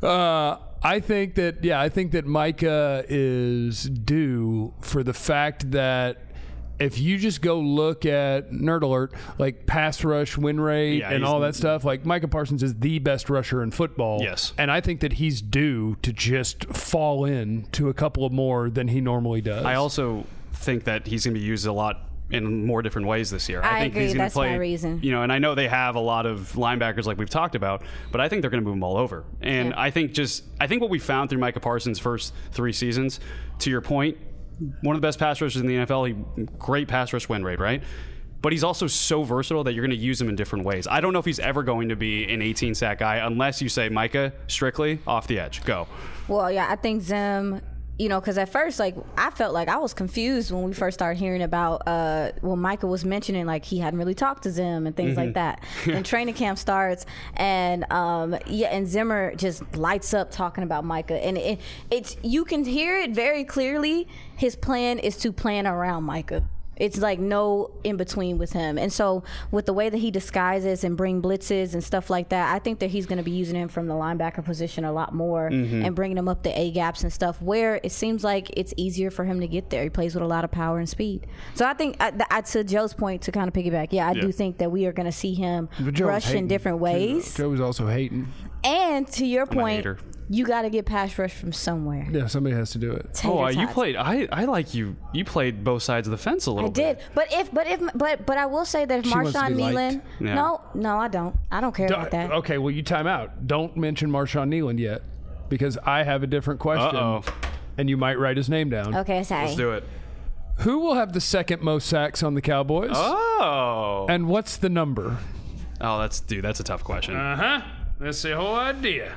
I think that Micah is due for the fact that if you just go look at Nerd Alert, like pass rush, win rate, Yeah, and he's- all that stuff, like Micah Parsons is the best rusher in football. Yes. And I think that he's due to just fall in to a couple of more than he normally does. I also think that he's going to be used a lot in more different ways this year. I think agree. he's going That's to play. my reason. You know, and I know they have a lot of linebackers like we've talked about, but I think they're going to move them all over. And Yeah. I think what we found through Micah Parsons' first 3 seasons, to your point, one of the best pass rushers in the NFL. Great pass rush win rate, right? But he's also so versatile that you're going to use him in different ways. I don't know if he's ever going to be an 18 sack guy unless you say Micah strictly off the edge. Go. Well, yeah, I think Zim, you know, because at first, like, I felt like I was confused when we first started hearing about, when Micah was mentioning, like, he hadn't really talked to Zim and things like that. And training camp starts, and, and Zimmer just lights up talking about Micah. And it's you can hear it very clearly. His plan is to plan around Micah. It's like no in between with him. And so with the way that he disguises and bring blitzes and stuff like that, I think that he's going to be using him from the linebacker position a lot more and bringing him up the A gaps and stuff where it seems like it's easier for him to get there. He plays with a lot of power and speed. So I think to Joe's point, to kind of piggyback, I do think that we are going to see him But Joe was rush in hating, different too, ways. Joe was also hating. And to your a point, hater. you got to get pass rush from somewhere. Yeah, somebody has to do it. Oh, you Tater tots. played. I like you. You played both sides of the fence a little I bit. did, but I will say that if She wants to Marshawn be liked. Nealon, Yeah. no, I don't care about that. Okay, well, you time out. Don't mention Marshawn Nealon yet because I have a different question. Uh-oh. And you might write his name down. Okay, sorry. Let's do it. Who will have the second most sacks on the Cowboys? Oh. And what's the number? Oh, that's a tough question. Uh-huh. That's the whole idea.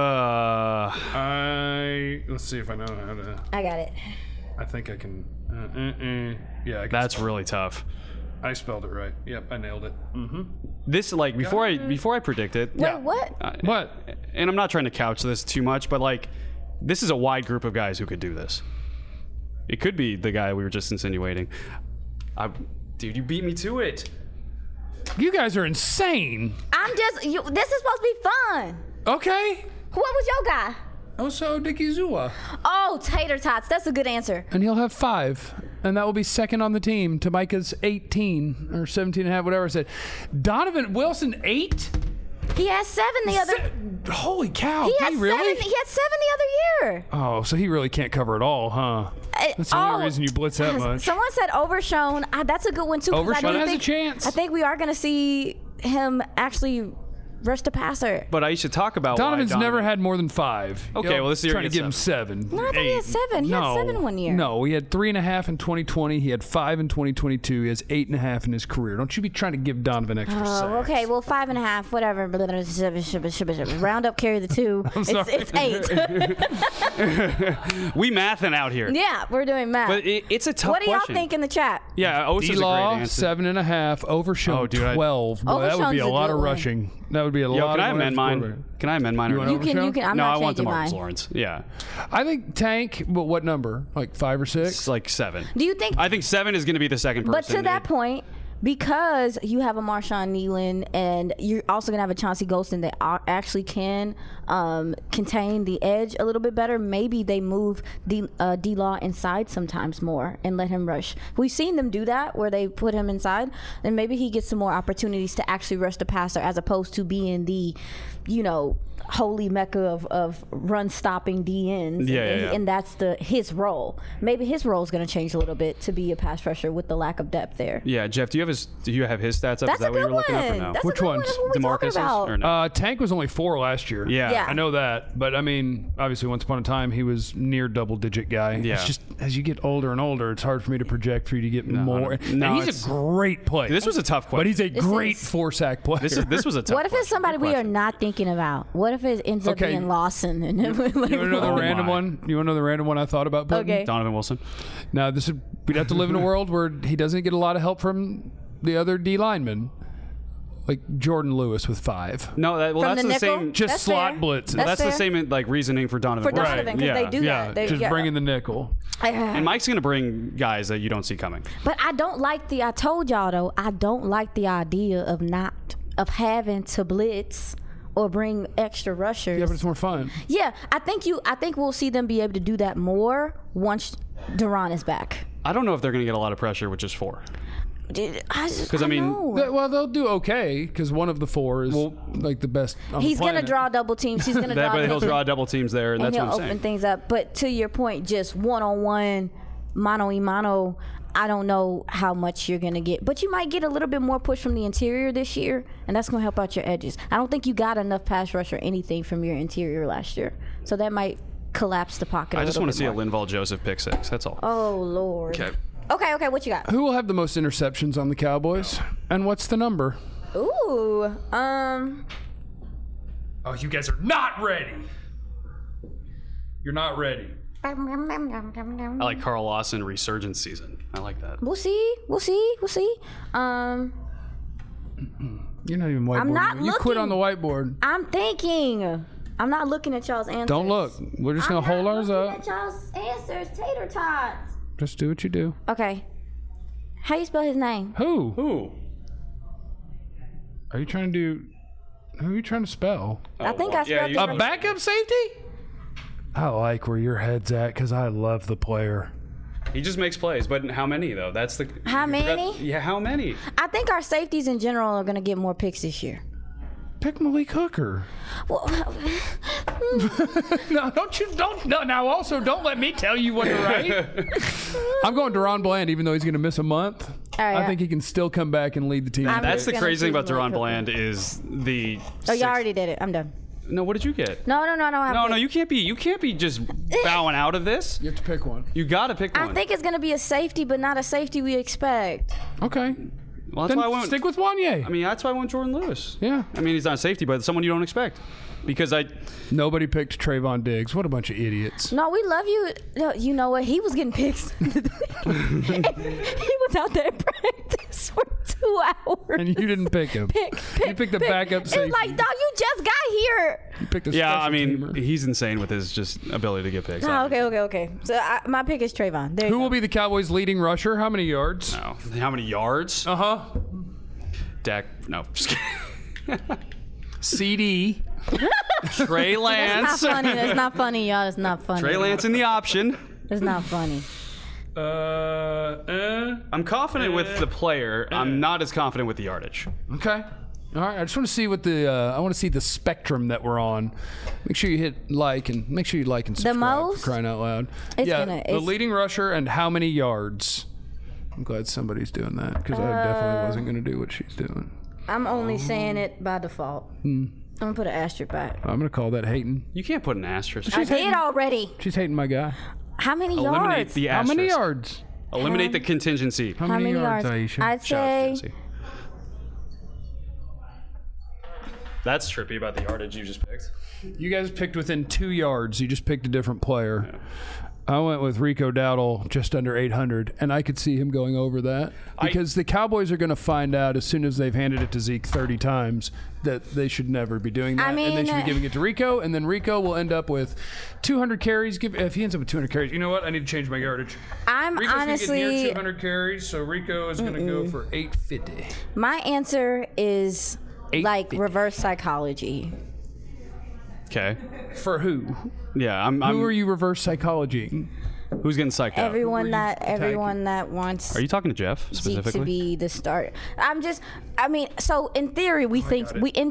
Let's see if I know how to. I got it. I think I can. Yeah, I can That's spell really tough. it. I spelled it right. Yep, I nailed it. This like before I predict it. Wait, what? What? And I'm not trying to couch this too much, but like this is a wide group of guys who could do this. It could be the guy we were just insinuating. Dude, you beat me to it. You guys are insane. I'm just. This is supposed to be fun. Okay. What was your guy? Also, Dickie Zua. Oh, tater tots. That's a good answer. And he'll have 5. And that will be second on the team to Micah's 18 or 17 and a half, whatever I said. Donovan Wilson, 8? He had 7 the other. Holy cow. He did had he really? 7. He had 7 the other year. Oh, so he really can't cover it all, huh? That's the only reason you blitz that much. Someone said Overshown. That's a good one too. 'Cause I Overshown do has a think- chance. I think we are going to see him actually rush the passer. But I should talk about Donovan's why never had more than 5. Okay, well, this year trying he to had give him 7. No, I thought he had 7. He had 7 one year. No, he had 3.5 in 2020. He had 5 in 2022. He has 8.5 in his career. Don't you be trying to give Donovan extra sacks. Oh, okay. Well, 5.5, whatever. Round up, carry the 2. It's 8. We mathing out here. Yeah, we're doing math. But it's a tough What do y'all question. think in the chat? Yeah, Osa's a great D-Law, answer. 7.5. Overshown, Oh, dude, 12. Boy, that would be Overshown's a a lot good of one. rushing. That would be a Yo, lot can of I amend mine? Can I amend mine? You or want no? You can. I'm No, not I want changing DeMarcus mine. Lawrence. Yeah, I think Tank, but what number? Like 5 or 6? it's like 7. Do you think? I think 7 is going to be the second person. But to that point, because you have a Marshawn Nealon and you're also going to have a Chauncey Golston that actually can contain the edge a little bit better, maybe they move D-Law inside sometimes more and let him rush. We've seen them do that where they put him inside, and maybe he gets some more opportunities to actually rush the passer as opposed to being the, holy mecca of run-stopping DNs. Yeah. And that's his role. Maybe his role is going to change a little bit to be a pass rusher with the lack of depth there. Yeah, Jeff, do you have his stats up? That's Is that a what good you're looking up or one. no? That's Which a good ones? one. What are we talking DeMarcus's about? or no? Tank was only 4 last year. Yeah. I know that. But, I mean, obviously, once upon a time, he was near double-digit guy. Yeah. It's just, as you get older and older, it's hard for me to project for you to get more. no, And he's it's- a great player. This was a tough question. But he's a great is- 4-sack player. This was a tough What if it's question. somebody Good we are question. not thinking about? What if it ends up Okay. being Lawson? And You want to know the Oh random my. one? You want to know the random one I thought about putting? Okay. Donovan Wilson? Now, we'd have to live in a world where he doesn't get a lot of help from the other D linemen, like Jordan Lewis with 5. No, that's From the the nickel? same. Just That's slot fair. blitzes. That's That's the fair. same like reasoning for Donovan. For Donovan, Wilson. because they do Yeah, that. They, just bring in the nickel. And Mike's going to bring guys that you don't see coming. But I don't like I told y'all though, I don't like the idea of having to blitz or bring extra rushers. Yeah, but it's more fun. Yeah, I think we'll see them be able to do that more once Duran is back. I don't know if they're going to get a lot of pressure with just 4. Because I mean, Well, they'll do okay because one of the 4 is like the best. On he's the going to planet. draw double teams. He's going to draw. he'll draw double teams there, and and that's he'll what I'm open saying. things up. But to your point, just one-on-one, mano-a-mano, I don't know how much you're going to get. But you might get a little bit more push from the interior this year, and that's going to help out your edges. I don't think you got enough pass rush or anything from your interior last year. So that might collapse the pocket I just want want to see a Linval Joseph pick 6. That's all. Oh, Lord. Okay. Okay, what you got? Who will have the most interceptions on the Cowboys? And what's the number? Ooh, Oh, you guys are not ready. You're not ready. I like Carl Lawson resurgence season. I like that. We'll see. You're not even whiteboarding. I'm not You quit looking. on the whiteboard. I'm thinking. I'm not looking at y'all's answers. Don't look. We're just going to hold ours looking up. at y'all's answers, tater tots. Just do what you do. Okay. How you spell his name? Who? Ooh. Are you trying to do... Who are you trying to spell? I think I spelled you- it A right. backup safety? I like where your head's at because I love the player. He just makes plays, but how many though? That's the. How you forgot- many? Yeah, how many? I think our safeties in general are going to get more picks this year. Pick Malik Hooker. Well, No, now also don't let me tell you what to write. I'm going Deron Bland, even though he's going to miss a month. right, I think he can still come back and lead the team. I'm That's just the gonna crazy thing choose about Deron Malik Hooker. Bland is the. oh, you already did it. I'm done. No, what did you get? No. I don't have No, to- you can't be just bowing out of this. You have to pick one. You got to pick one. I think it's going to be a safety, but not a safety we expect. Okay. Well, that's Then why I went. stick with Wanye. I mean, that's why I went Jordan Lewis. Yeah. I mean, he's not a safety, but someone you don't expect. Because Nobody picked Trayvon Diggs. What a bunch of idiots. No, we love you. No, you know what? He was getting picks. He was out there in practice for 2 hours. And you didn't pick him. You picked the backup It's safety. like, dog, you just got here. You picked a yeah, I special mean, teamer. he's insane with his just ability to get picks. Oh, okay. So my pick is Trayvon. There you Who go. will be the Cowboys' leading rusher? How many yards? No. How many yards? Uh-huh. Dak. No. Just kidding. CD. Trey Lance. That's not funny. That's not funny, y'all. It's not funny. Trey Lance in the option. It's not funny. I'm confident with the player. I'm not as confident with the yardage. Okay. All right. I just want to see what the I want to see the spectrum that we're on. Make sure you hit like and subscribe. most? For crying out loud. It's yeah. gonna- The it's- leading rusher and how many yards. I'm glad somebody's doing that because I definitely wasn't going to do what she's doing. I'm only saying it by default. I'm gonna put an asterisk back. I'm going to call that hating. You can't put an asterisk. I did already. She's hating my guy. How many Eliminate yards? the How asterisk. many yards? Eliminate the contingency. How How many yards? Aisha? I'd Shout out to say Jesse. That's trippy about the yardage you just picked. You guys picked within 2 yards. You just picked a different player. I went with Rico Dowdle just under 800, and I could see him going over that because the Cowboys are going to find out as soon as they've handed it to Zeke 30 times that they should never be doing that, I mean, and they should be giving it to Rico, and then Rico will end up with 200 carries. If he ends up with 200 carries, you know what? I need to change my yardage. I'm Rico's going to get near honestly. 200 carries, so Rico is going to go for 850. My answer is like 850. reverse psychology. Okay. For who? Yeah, I'm. Who are you reverse psychology? Who's getting psyched out? Everyone that wants Are you talking to Jeff Zeke specifically? to be the start. I mean, so in theory we think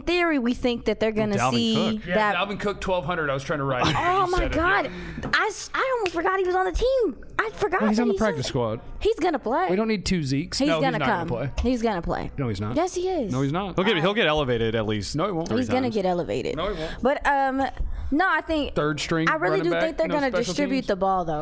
that they're gonna Dalvin see Cook. Yeah, that. Dalvin Cook 1200. I was trying to write it. Oh You my said it, God! yeah. I almost forgot he was on the team. I forgot. Well, he's that on the he's practice squad. He's gonna play. We don't need 2 Zekes. He's no, gonna he's not come. Gonna play. He's gonna play. No, he's not. Yes, he is. No, he's not. He'll get elevated at least. No, he won't. He's gonna times. get elevated. No, he won't. But no, I think Third string I really running do back, think they're no gonna special distribute teams? the ball though.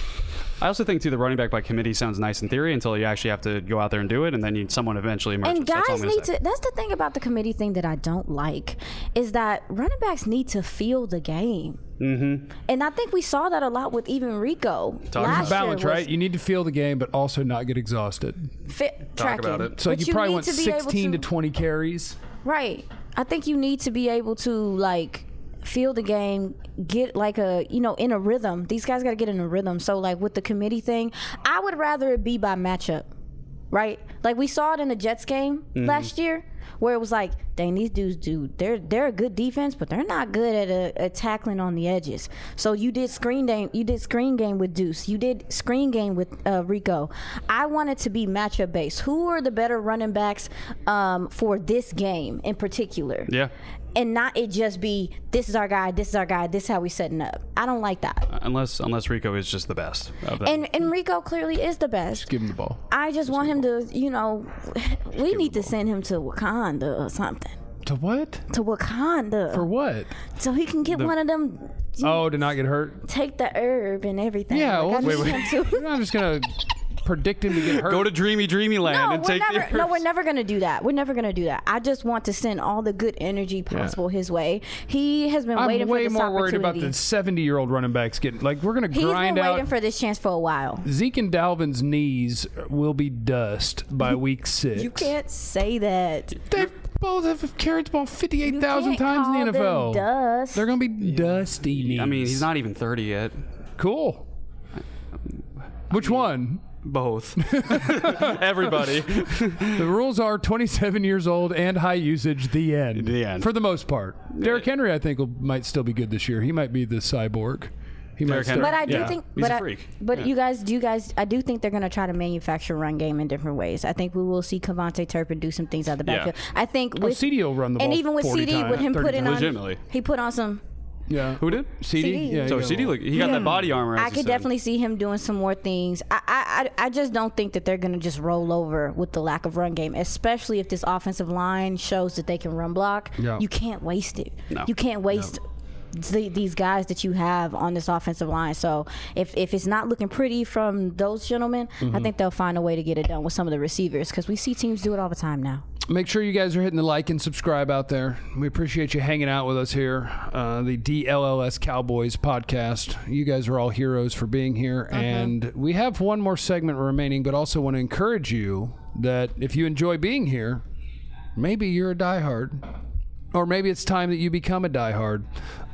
I also think too the running back by committee sounds nice in theory until you actually have to go out there and do it, and then someone eventually emerges. And That's all guys I'm gonna need say. to. That's the thing about the committee thing that I don't like is that running backs need to feel the game. Mm-hmm. And I think we saw that a lot with even Rico. Last Balance, year was right? You need to feel the game, but also not get exhausted. tracking. about it. So But you probably need want to be able 16 to 20 carries. Right. I think you need to be able to like feel the game, get like in a rhythm. These guys got to get in a rhythm. So like with the committee thing, I would rather it be by matchup, right? Like we saw it in the Jets game last year, where it was like, dang, these dudes they're a good defense, but they're not good at tackling on the edges. So you did screen game with Deuce, you did screen game with Rico. I want it to be matchup based. Who are the better running backs for this game in particular? Yeah. And not it just be this is our guy, this is how we setting up. I don't like that. Unless Rico is just the best of them. And Rico clearly is the best. Give him the ball. I just want him to, we need to send him to Wakanda or something. To what? To Wakanda. For what? So he can get one of them, Oh, to not get hurt? take the herb and everything. Yeah, Like, well, I need him to. I'm just going to predict him to get hurt. Go to Dreamy Land and take the we're never gonna do that. We're never gonna do that. I just want to send all the good energy possible his way. He has been I'm waiting for way this more worried about opportunity. the 70-year-old running backs getting, like, we're going to He's grind been out. waiting for this chance for a while. Zeke and Dalvin's knees will be dust by week 6. You can't say that. They both have carried the ball 58,000 You times can't in the call NFL. them dust. They're going to be dusty knees. I mean, he's not even 30 yet. Cool. Which one? Both. Everybody. The rules are 27 years old and high usage. The end. The end. For the most part. Derrick Henry, I think, might still be good this year. He might be the cyborg. He might Derrick start- Henry? But I do yeah. think, He's but a I, freak. but Yeah. you guys, I do think they're going to try to manufacture run game in different ways. I think we will see Cavante Turpin do some things out the Yeah. backfield. I think with CD will run the ball and even with 40 CD, times, with him 30 putting times. on, Legitimately. he put on some. Yeah. Who did? CD? CD. Yeah, So he CD, he got that body armor. As I you could said. definitely see him doing some more things. I just don't think that they're going to just roll over with the lack of run game, especially if this offensive line shows that they can run block. Yeah. You can't waste it. No. You can't waste these guys that you have on this offensive line. So if it's not looking pretty from those gentlemen, I think they'll find a way to get it done with some of the receivers, because we see teams do it all the time now. Make sure you guys are hitting the like and subscribe out there. We appreciate you hanging out with us here. The DLLS Cowboys podcast. You guys are all heroes for being here. And we have one more segment remaining, but also want to encourage you that if you enjoy being here, maybe you're a diehard. Or maybe it's time that you become a diehard.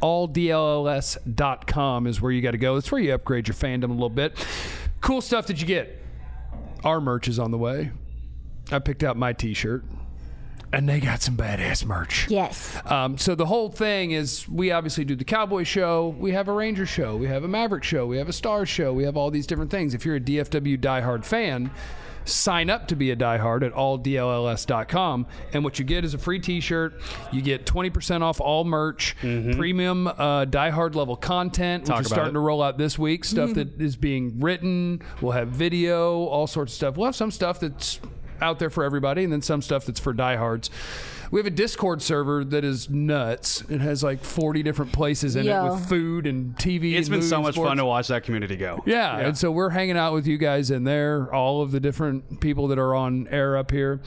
AllDLLS.com is where you got to go. That's where you upgrade your fandom a little bit. Cool stuff that you get. Our merch is on the way. I picked out my T-shirt. And they got some badass merch. Yes. So the whole thing is, we obviously do the Cowboy show. We have a Ranger show. We have a Maverick show. We have a Stars show. We have all these different things. If you're a DFW diehard fan, sign up to be a diehard at alldlls.com. And what you get is a free T-shirt. You get 20% off all merch, premium diehard level content, which is starting to roll out this week. Stuff that is being written. We'll have video, all sorts of stuff. We'll have some stuff that's out there for everybody, and then some stuff that's for diehards. We have a Discord server that is nuts. It has like 40 different places in it with food and TV. It's been so much sports. fun to watch that community go. Yeah, and so we're hanging out with you guys in there, all of the different people that are on air up here.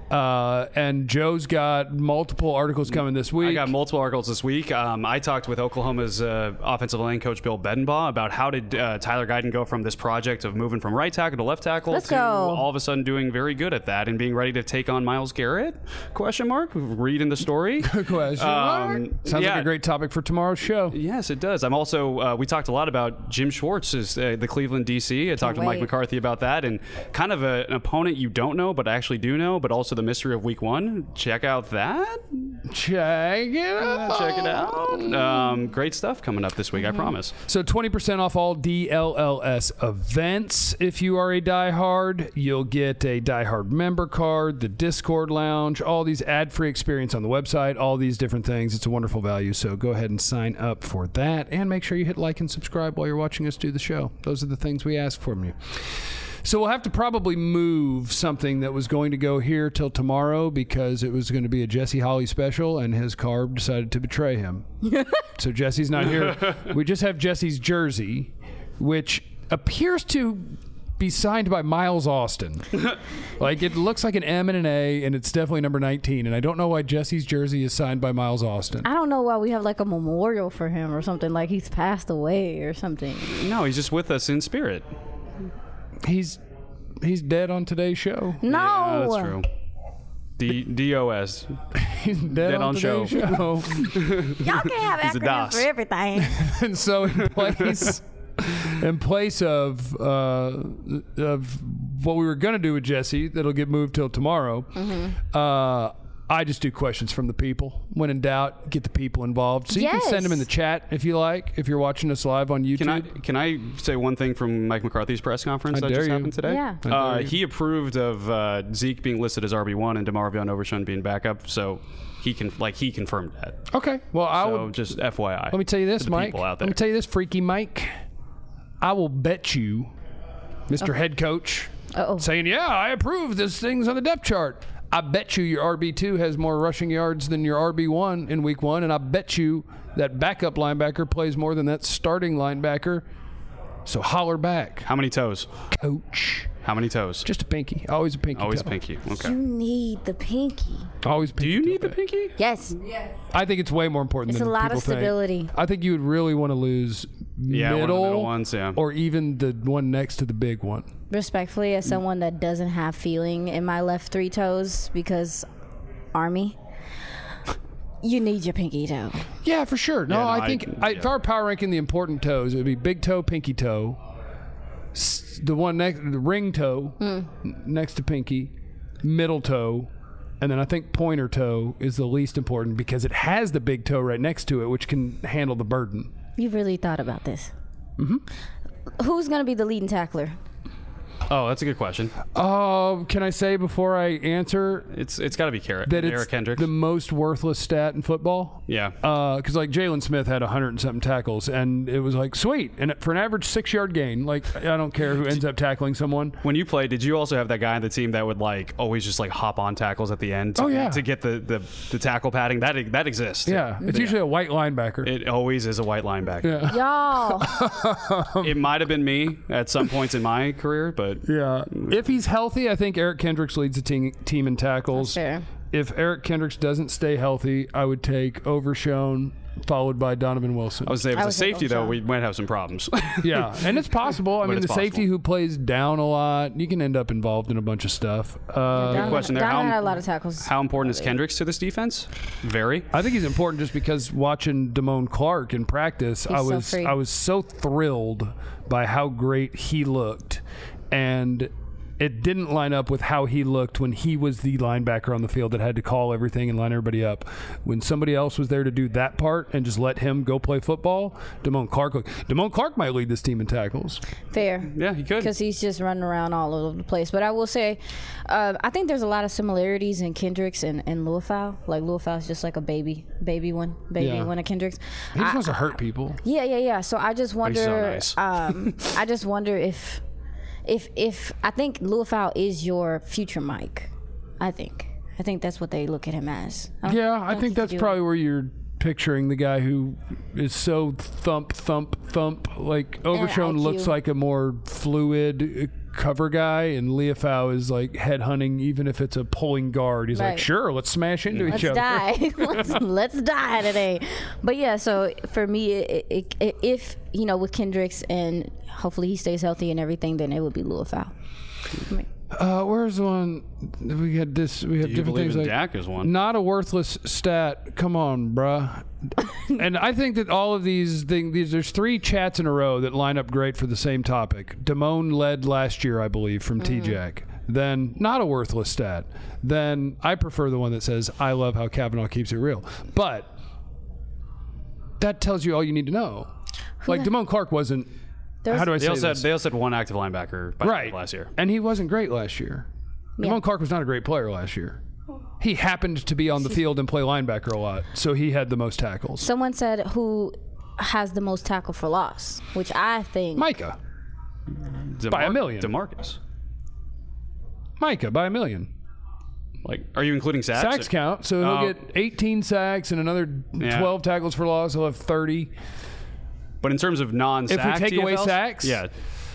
And Joe's got multiple articles coming this week. I got multiple articles this week. I talked with Oklahoma's offensive line coach Bill Bedenbaugh about how did Tyler Guyton go from this project of moving from right tackle to left tackle to all of a sudden doing very good at that and being ready to take on Myles Garrett? Question mark. Reading the story. Question mark. Sounds like a great topic for tomorrow's show. Yes, it does. I'm also, we talked a lot about Jim Schwartz, the Cleveland DC. I talked with Mike McCarthy about that, and kind of an opponent you don't know, but actually do know, but also the mystery of week one. Check out that. Check it out. Great stuff coming up this week, I promise. So 20% off all DLLS events. If you are a diehard, you'll get a diehard member card, the Discord lounge, all these ad-free experience on the website, all these different things. It's a wonderful value, so go ahead and sign up for that, and make sure you hit like and subscribe while you're watching us do the show. Those are the things we ask from you. So we'll have to probably move something that was going to go here till tomorrow, because it was going to be a Jesse Holly special, and his car decided to betray him. So Jesse's not here. We just have Jesse's jersey, which appears to be signed by Miles Austin. Like, it looks like an M and an A, and it's definitely number 19. And I don't know why Jesse's jersey is signed by Miles Austin. I don't know why we have like a memorial for him or something, like he's passed away or something. No, he's just with us in spirit. He's dead on today's show. No, Yeah, that's true. DOS. He's dead on show. today's show. Y'all can't have He's a acronyms DOS. for everything. And so in place of what we were going to do with Jesse, that'll get moved till tomorrow, I just do questions from the people. When in doubt, get the people involved. So you can send them in the chat if you like, if you're watching us live on YouTube. Can I say one thing from Mike McCarthy's press conference that dare just you. happened today? Yeah. He approved of Zeke being listed as RB1 and DeMarvion Overshown being backup, so he confirmed that. Okay. Well, So just FYI. let me tell you this, to the Mike. people out Let there. me tell you this, Freaky Mike. I will bet you, Mr. Head Coach, saying, yeah, I approve this thing's on the depth chart. I bet you your RB2 has more rushing yards than your RB1 in week one, and I bet you that backup linebacker plays more than that starting linebacker. So holler back. How many toes? Coach. How many toes? Just a pinky. Always a pinky. Always toe. pinky. Okay. You need the pinky. Always pinky. Do you toe need the back. pinky? Yes. I think it's way more important It's than a lot people of stability. think. I think you would really want to lose Yeah, one of the middle, middle ones, yeah. or even the one next to the big one. Respectfully, as someone that doesn't have feeling in my left three toes because Army, you need your pinky toe. Yeah, for sure. No, Yeah, no, I think if I were power ranking the important toes, it would be big toe, pinky toe, the one next, the ring toe next to pinky, middle toe, and then I think pointer toe is the least important because it has the big toe right next to it, which can handle the burden. You've really thought about this. Who's going to be the leading tackler? Oh, that's a good question. Can I say before I answer It's got to be that it's Eric Kendricks. the most worthless stat in football? Yeah. Because like Jalen Smith had 100 and something tackles, and it was like sweet. And for an average 6-yard gain, like I don't care who ends up tackling someone. When you played, did you also have that guy on the team that would like always just like hop on tackles at the end? To get the tackle padding that exists. Yeah, it's usually a white linebacker. It always is a white linebacker. Y'all. It might have been me at some points in my career, but Yeah. If he's healthy, I think Eric Kendricks leads the team in tackles. Fair. If Eric Kendricks doesn't stay healthy, I would take Overshown, followed by Donovan Wilson. I would say if I it's a would say safety though, Overshown. we might have some problems. Yeah, and it's possible. I mean, it's the safety possible. who plays down a lot, you can end up involved in a bunch of stuff. Good question there. Donovan had a lot of tackles. How important is Kendricks to this defense? Very. I think he's important just because watching Damone Clark in practice, free. I was so thrilled by how great he looked, and it didn't line up with how he looked when he was the linebacker on the field that had to call everything and line everybody up. When somebody else was there to do that part and just let him go play football, Damone Clark might lead this team in tackles. Fair. Yeah, he could. Because he's just running around all over the place. But I will say, I think there's a lot of similarities in Kendricks and Luafau. Like Luafau's just like a baby one of Kendricks. He just wants to hurt people. Yeah. So I just wonder. He's so nice. I just wonder if I think Luafau is your future Mike. I think that's what they look at him as. Yeah, I think that's probably where you're picturing the guy who is so thump. Like Overshown IQ. looks like a more fluid cover guy, and Leofau is like headhunting, even if it's a pulling guard. He's like, Right. sure, let's smash into each other. Die. let's die today. But yeah, so for me, if with Kendricks and hopefully he stays healthy and everything, then it would be Luafau. Where's the one? We had this. We have Do you different believe things in like Dak as one? not a worthless stat. Come on, bruh. And I think that all of these things, there's 3 chats in a row that line up great for the same topic. Damone led last year, I believe, from T-Jack. Then not a worthless stat. Then I prefer the one that says, I love how Kavanaugh keeps it real. But that tells you all you need to know. Like Damone Clark wasn't. How do I They say also this? had one active linebacker by the end of last year. And he wasn't great last year. Damone Clark was not a great player last year. He happened to be on the field and play linebacker a lot, so he had the most tackles. Someone said who has the most tackle for loss, which I think Micah. By 1 million. DeMarcus. Micah by 1 million. Like, are you including sacks? Sacks count, so he'll get 18 sacks and another 12 tackles for loss. He'll have 30. But in terms of non-sack If we take away TFLs, sacks? yeah,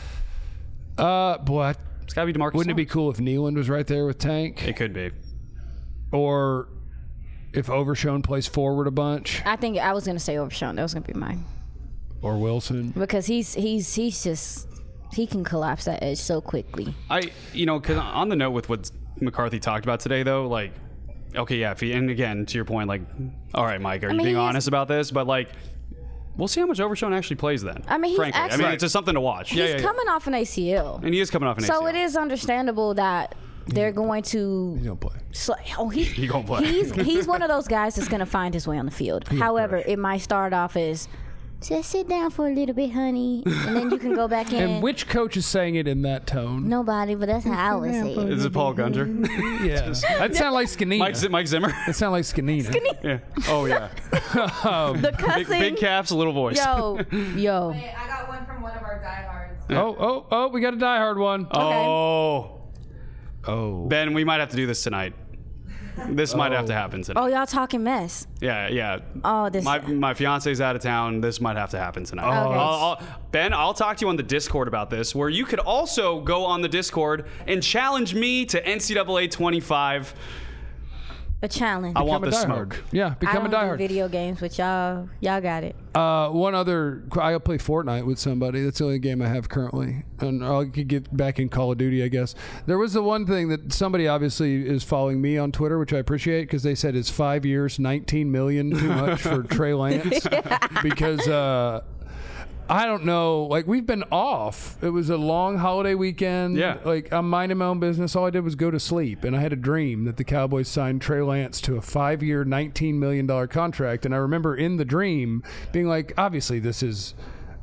Boy, it's got to be DeMarcus. wouldn't it be Lawrence. cool if Nealand was right there with Tank? It could be. Or if Overshown plays forward a bunch? I think I was gonna say Overshown. That was gonna be mine Or Wilson? because he's just he can collapse that edge so quickly. Because on the note with what McCarthy talked about today, though, like, okay, yeah, and again, to your point, like, all right, Mike, are you being honest about this? But, like, we'll see how much Overshown actually plays then. I mean, he's frankly. actually- it's just something to watch. He's coming off an ACL, And he is coming off an ACL. so it is understandable that they're going to. He's going to play. He gonna play. He's one of those guys that's going to find his way on the field. However, it might start off as just sit down for a little bit, honey, and then you can go back in. And which coach is saying it in that tone? Nobody, but that's how I would say it. Is it Paul Gunter? Yeah. That sounded like Skanina. Mike Zimmer? That sounded like Skanina. Yeah. Oh, yeah. The cussing. Big caps, a little voice. Yo. Wait, I got one from one of our diehards. Oh, we got a diehard one. Oh. Oh. Ben, we might have to do this tonight. This might have to happen tonight. Oh, y'all talking mess. Yeah. Oh, this. My fiance's out of town. This might have to happen tonight. Okay. Ben, I'll talk to you on the Discord about this, where you could also go on the Discord and challenge me to NCAA 25. A challenge. I want Become the a diehard. smoke. Yeah, become I a don't do diehard. video games, but y'all got it. One other, I play Fortnite with somebody. That's the only game I have currently, and I could get back in Call of Duty, I guess. There was the one thing that somebody obviously is following me on Twitter, which I appreciate, because they said it's 5 years, 19 million too much for Trey Lance, because I don't know. Like, we've been off. It was a long holiday weekend. Yeah. Like, I'm minding my own business. All I did was go to sleep. And I had a dream that the Cowboys signed Trey Lance to a 5-year, $19 million contract. And I remember in the dream being like, obviously, this is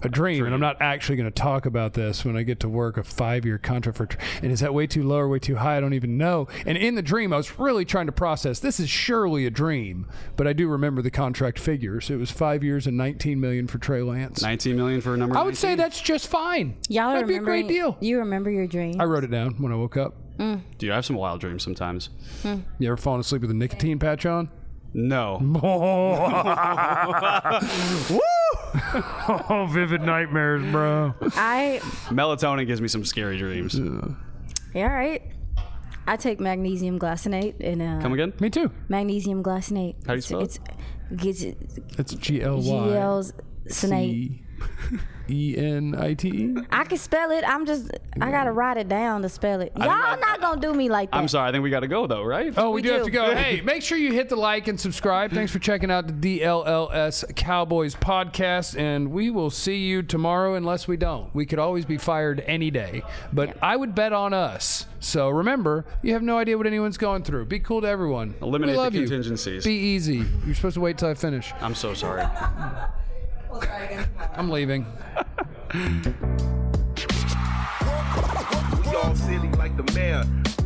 a dream, and I'm not actually going to talk about this when I get to work, a 5-year contract for, and is that way too low or way too high? I don't even know. And in the dream, I was really trying to process, this is surely a dream, but I do remember the contract figures. It was 5 years and $19 million for Trey Lance. $19 million for a number 19? I would say that's just fine. Y'all That'd be a great deal. You remember your dream? I wrote it down when I woke up. Dude, I have some wild dreams sometimes. You ever fallen asleep with a nicotine patch on? No. Oh, vivid nightmares, bro. Melatonin gives me some scary dreams. Yeah, all right. I take magnesium glycinate and Come again? Me too. magnesium glycinate. How do you spell it? It's GLY. GLcinate. ENITE. I can spell it. I gotta write it down to spell it. Y'all not gonna do me like that. I'm sorry. I think we got to go, though, right? Oh, we do have to go. Hey, make sure you hit the like and subscribe. Thanks for checking out the DLLS Cowboys podcast, and we will see you tomorrow unless we don't. We could always be fired any day, but I would bet on us. So remember, you have no idea what anyone's going through. Be cool to everyone. Eliminate we love the you. contingencies. Be easy. You're supposed to wait till I finish. I'm so sorry. We'll try again tomorrow. I'm leaving. We all silly like the mayor.